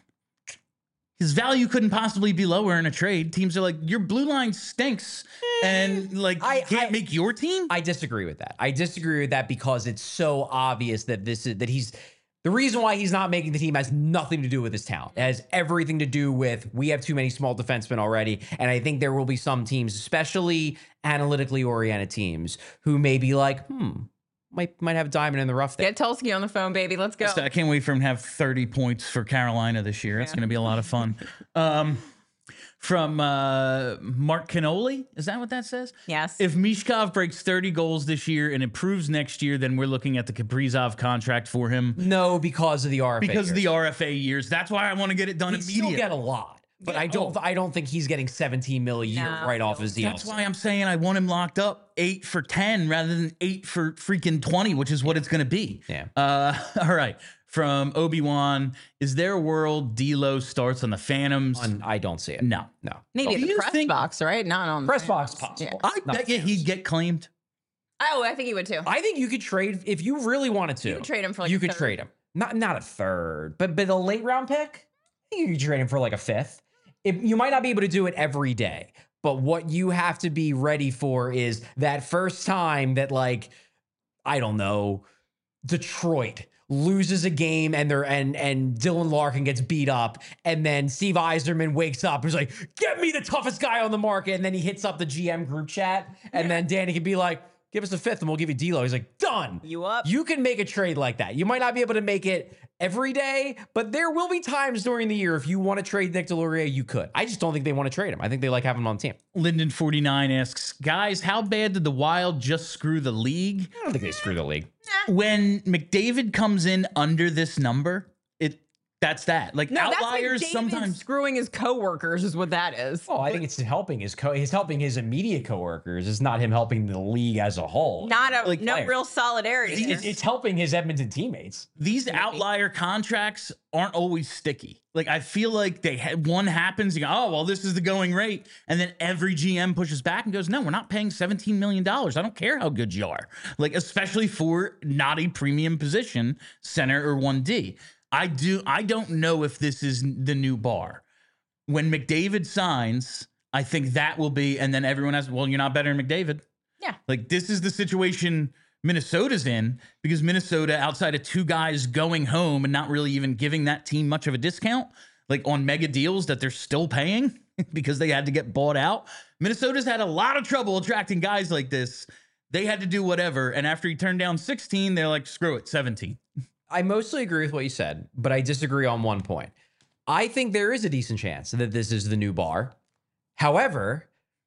His value couldn't possibly be lower in a trade. Teams are like, your blue line stinks, and like I- you can't I- make your team. I disagree with that. I disagree with that because it's so obvious that this is that he's the reason why he's not making the team has nothing to do with his talent. It has everything to do with we have too many small defensemen already. And I think there will be some teams, especially analytically oriented teams, who may be like, hmm, might might have a diamond in the rough there. Get Tulski on the phone, baby. Let's go. I can't wait for him to have thirty points for Carolina this year. It's Yeah. going to be a lot of fun. Um, from uh, Mark Canoli, is that what that says? Yes. If Mishkov breaks thirty goals this year and improves next year, then we're looking at the Kaprizov contract for him No, because of the R F A. because of years. the R F A years. That's why I want to get it done He'd still immediately. get a lot. But Yeah, I don't oh. I don't think he's getting seventeen mil a year No. right off his deal. That's why I'm saying I want him locked up eight for ten rather than eight for freaking twenty, which is what it's going to be. Yeah. Uh, all right. from Obi-Wan. Is there a world D'Lo starts on the Phantoms? On, I don't see it. No. No. Maybe Do the you press think- box, right? Not on Press the box fans. possible. Yeah. I Not bet you Phantoms. he'd get claimed. Oh, I think he would too. I think you could trade if you really wanted to. You could trade him for like you a could third. trade him. Not not a third, but but a late round pick. I think you could trade him for like a fifth. If, you might not be able to do it every day, but what you have to be ready for is that first time that, like, I don't know, Detroit loses a game and they're and and Dylan Larkin gets beat up, and then Steve Eiserman wakes up and is like, "Get me the toughest guy on the market," and then he hits up the G M group chat, and then Danny can be like, "Give us a fifth and we'll give you D'Lo." He's like, "Done." You up? You can make a trade like that. You might not be able to make it every day, but there will be times during the year if you want to trade Nick DeLaurier, you could. I just don't think they want to trade him. I think they like having him on the team. Linden forty-nine asks, guys, how bad did the Wild just screw the league? I don't think they screw the league. When McDavid comes in under this number, it that's that. Like No, outliers that's like sometimes. screwing his coworkers is what that is. Oh, I think it's helping his co. He's helping his immediate coworkers. It's not him helping the league as a whole. Not a Like no players. real solidarity. It's, it's helping his Edmonton teammates. These outlier contracts aren't always sticky. Like I feel like they had one happens, you go, oh well, this is the going rate, and then every G M pushes back and goes, no, we're not paying seventeen million dollars. I don't care how good you are. Like especially for not a premium position, center or one D. I do. I don't know if this is the new bar. When McDavid signs, I think that will be, and then everyone has, well, you're not better than McDavid. Yeah. Like this is the situation Minnesota's in, because Minnesota, outside of two guys going home and not really even giving that team much of a discount, like on mega deals that they're still paying because they had to get bought out. Minnesota's had a lot of trouble attracting guys like this. They had to do whatever. And after he turned down sixteen, they're like, screw it, seventeen. I mostly agree with what you said, but I disagree on one point. I think there is a decent chance that this is the new bar. However,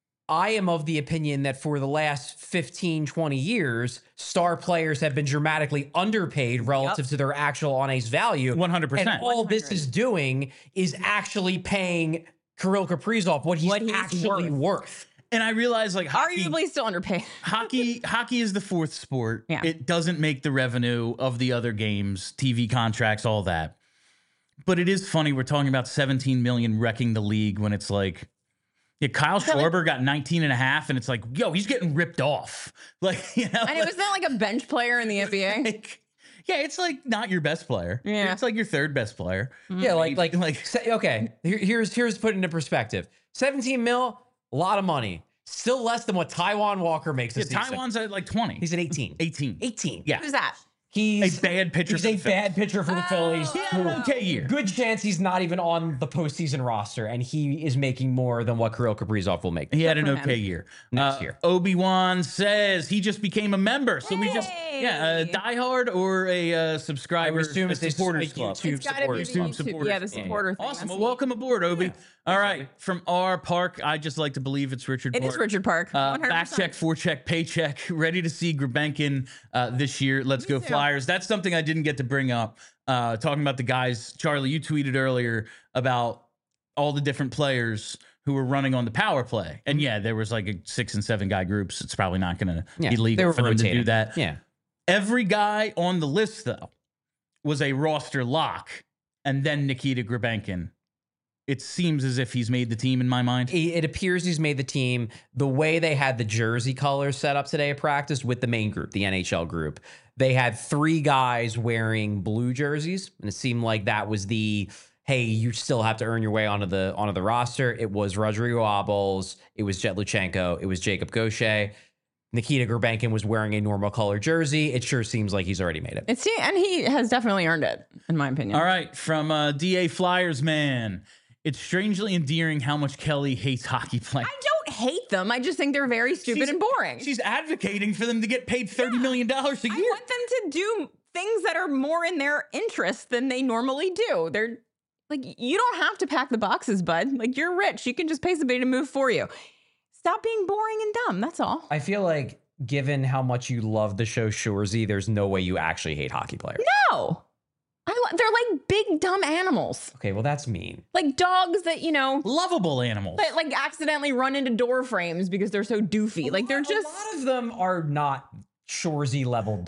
I am of the opinion that for the last fifteen, twenty years, star players have been dramatically underpaid relative Yep. to their actual on-ice value. one hundred percent. And all this is doing is actually paying Kirill Kaprizov what he's, What he's actually worth. worth. And I realize like hockey, Arguably still underpaid. hockey, hockey is the fourth sport. Yeah. It doesn't make the revenue of the other games, T V contracts, all that. But it is funny. We're talking about seventeen million wrecking the league when it's like, yeah, Kyle Schwarber got nineteen and a half, and it's like, yo, he's getting ripped off. Like, you know, And it was not like a bench player in the N B A. like, yeah, it's like not your best player. Yeah. It's like your third best player. Yeah, like like Like- like say, okay. Here, here's here's put into perspective. seventeen mil, a lot of money. Still less than what Taiwan Walker makes. Yeah, This season. Taiwan's at like twenty. He's at eighteen. eighteen. eighteen. Yeah. Who's that? He's A bad pitcher He's for a the Phillies. bad pitcher for the Phillies. He had who- an okay year. Good chance he's not even on the postseason roster, and he is making more than what Kirill Kaprizov will make. He had an for him. okay year. Next Uh, year. Obi-Wan says he just became a member. So we just, yeah, a Hey. diehard or a uh, subscriber, I would assume a it's a supporters YouTube club. It's got to be supporters the club. YouTube. Supporters Yeah, the club. supporter thing. Awesome. That's Well, neat. welcome aboard, Obi. All right. From our park, I just like to believe it's Richard It Park. is Richard Park. Uh, one hundred back percent. check, forecheck, paycheck. Ready to see Grabenkin uh, this year. Let's go too. Flyers. That's something I didn't get to bring up. Uh, talking about the guys, Charlie, you tweeted earlier about all the different players who were running on the power play. And yeah, there was like a six and seven guy groups. It's probably not going to Yeah, be they legal were for them to do rotating. that. Yeah. Every guy on the list, though, was a roster lock. And then Nikita Grabenkin. It seems as if he's made the team in my mind. It it appears he's made the team. The way they had the jersey colors set up today at practice with the main group, the N H L group, they had three guys wearing blue jerseys, and it seemed like that was the hey, you still have to earn your way onto the onto the roster. It was Rodrigo Abels, it was Jet Luchenko, it was Jacob Gaucher. Nikita Grabenkin was wearing a normal color jersey. It sure seems like he's already made it. It's and he has definitely earned it, in my opinion. All right, from uh, D A Flyers man. It's strangely endearing how much Kelly hates hockey players. I don't hate them. I just think they're very stupid She's- and boring. She's advocating for them to get paid thirty million dollars a I year. want them to do things that are more in their interest than they normally do. They're like, you don't have to pack the boxes, bud. Like, you're rich. You can just pay somebody to move for you. Stop being boring and dumb. That's all. I feel like given how much you love the show Shoresy, there's no way you actually hate hockey players. No. I lo- they're like big, dumb animals. Okay, well, that's mean. Like dogs that, you know, Lovable animals. that like accidentally run into door frames because they're so doofy. Like, they're A just. lot of them are not Shoresy level dumb.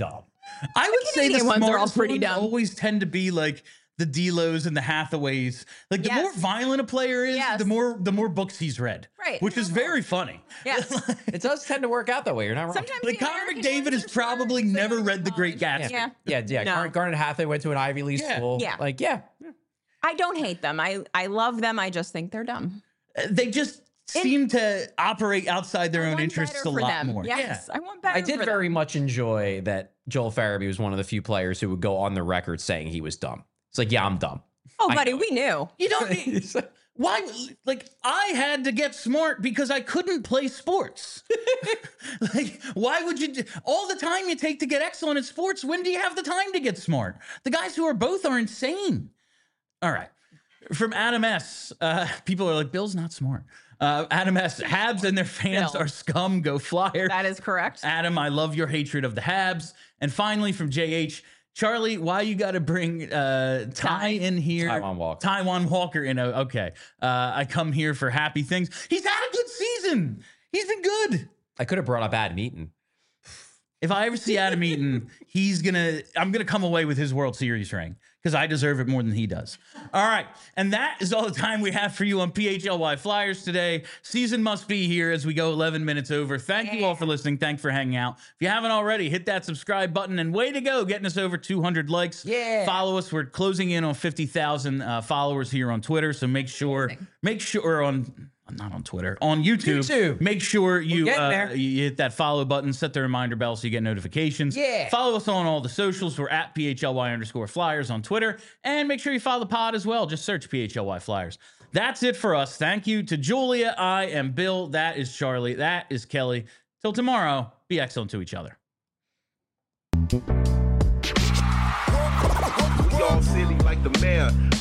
I would say the Canadian ones are all smartest pretty ones dumb. always tend to be like the D-Los and the Hathaways. Like the Yes. more violent a player is, Yes. the more the more books he's read. Right. Which is very funny. Yes. It does tend to work out that way. You're not wrong. Sometimes Like the Connor American McDavid ones has are smart, probably so they never go to read The Great college. Gatsby. Yeah. yeah, yeah. No. Garnet, Garnet Hathaway went to an Ivy League Yeah. school. Yeah. Like, yeah. I don't hate them. I, I love them. I just think they're dumb. They just seem to operate outside their I own want interests better a for lot them. more. Yes, I want better I did for very them. much enjoy that Joel Farabee was one of the few players who would go on the record saying he was dumb. It's like, yeah, I'm dumb. Oh, I buddy, know we knew. You don't need, why, like, I had to get smart because I couldn't play sports. Like, why would you, do, all the time you take to get excellent at sports, when do you have the time to get smart? The guys who are both are insane. All right. From Adam S., uh, people are like, Bill's not smart. Uh, Adam S., Habs and their fans Bill. are scum, go Flyers. That is correct. Adam, I love your hatred of the Habs. And finally, from J H, Charlie, why you got to bring uh, Ty in here? Taiwan Walker. Taiwan Walker in. A, okay. Uh, I come here for happy things. He's had a good season. He's been good. I could have brought up Adam Eaton. If I ever see Adam Eaton, he's going to, I'm going to come away with his World Series ring because I deserve it more than he does. All right. And that is all the time we have for you on P H L Y Flyers today. Season must be here as we go eleven minutes over. Thank you all for listening. Thanks for hanging out. If you haven't already, hit that subscribe button and way to go getting us over two hundred likes. Yeah. Follow us. We're closing in on fifty thousand uh, followers here on Twitter. So make sure, make sure on, not on Twitter, on YouTube. YouTube. Make sure you, getting uh, there. you hit that follow button, set the reminder bell so you get notifications. Yeah. Follow us on all the socials. We're at P H L Y underscore Flyers on Twitter. And make sure you follow the pod as well. Just search P H L Y Flyers. That's it for us. Thank you to Julia. I am Bill. That is Charlie. That is Kelly. Till tomorrow, be excellent to each other. We all silly like the mayor.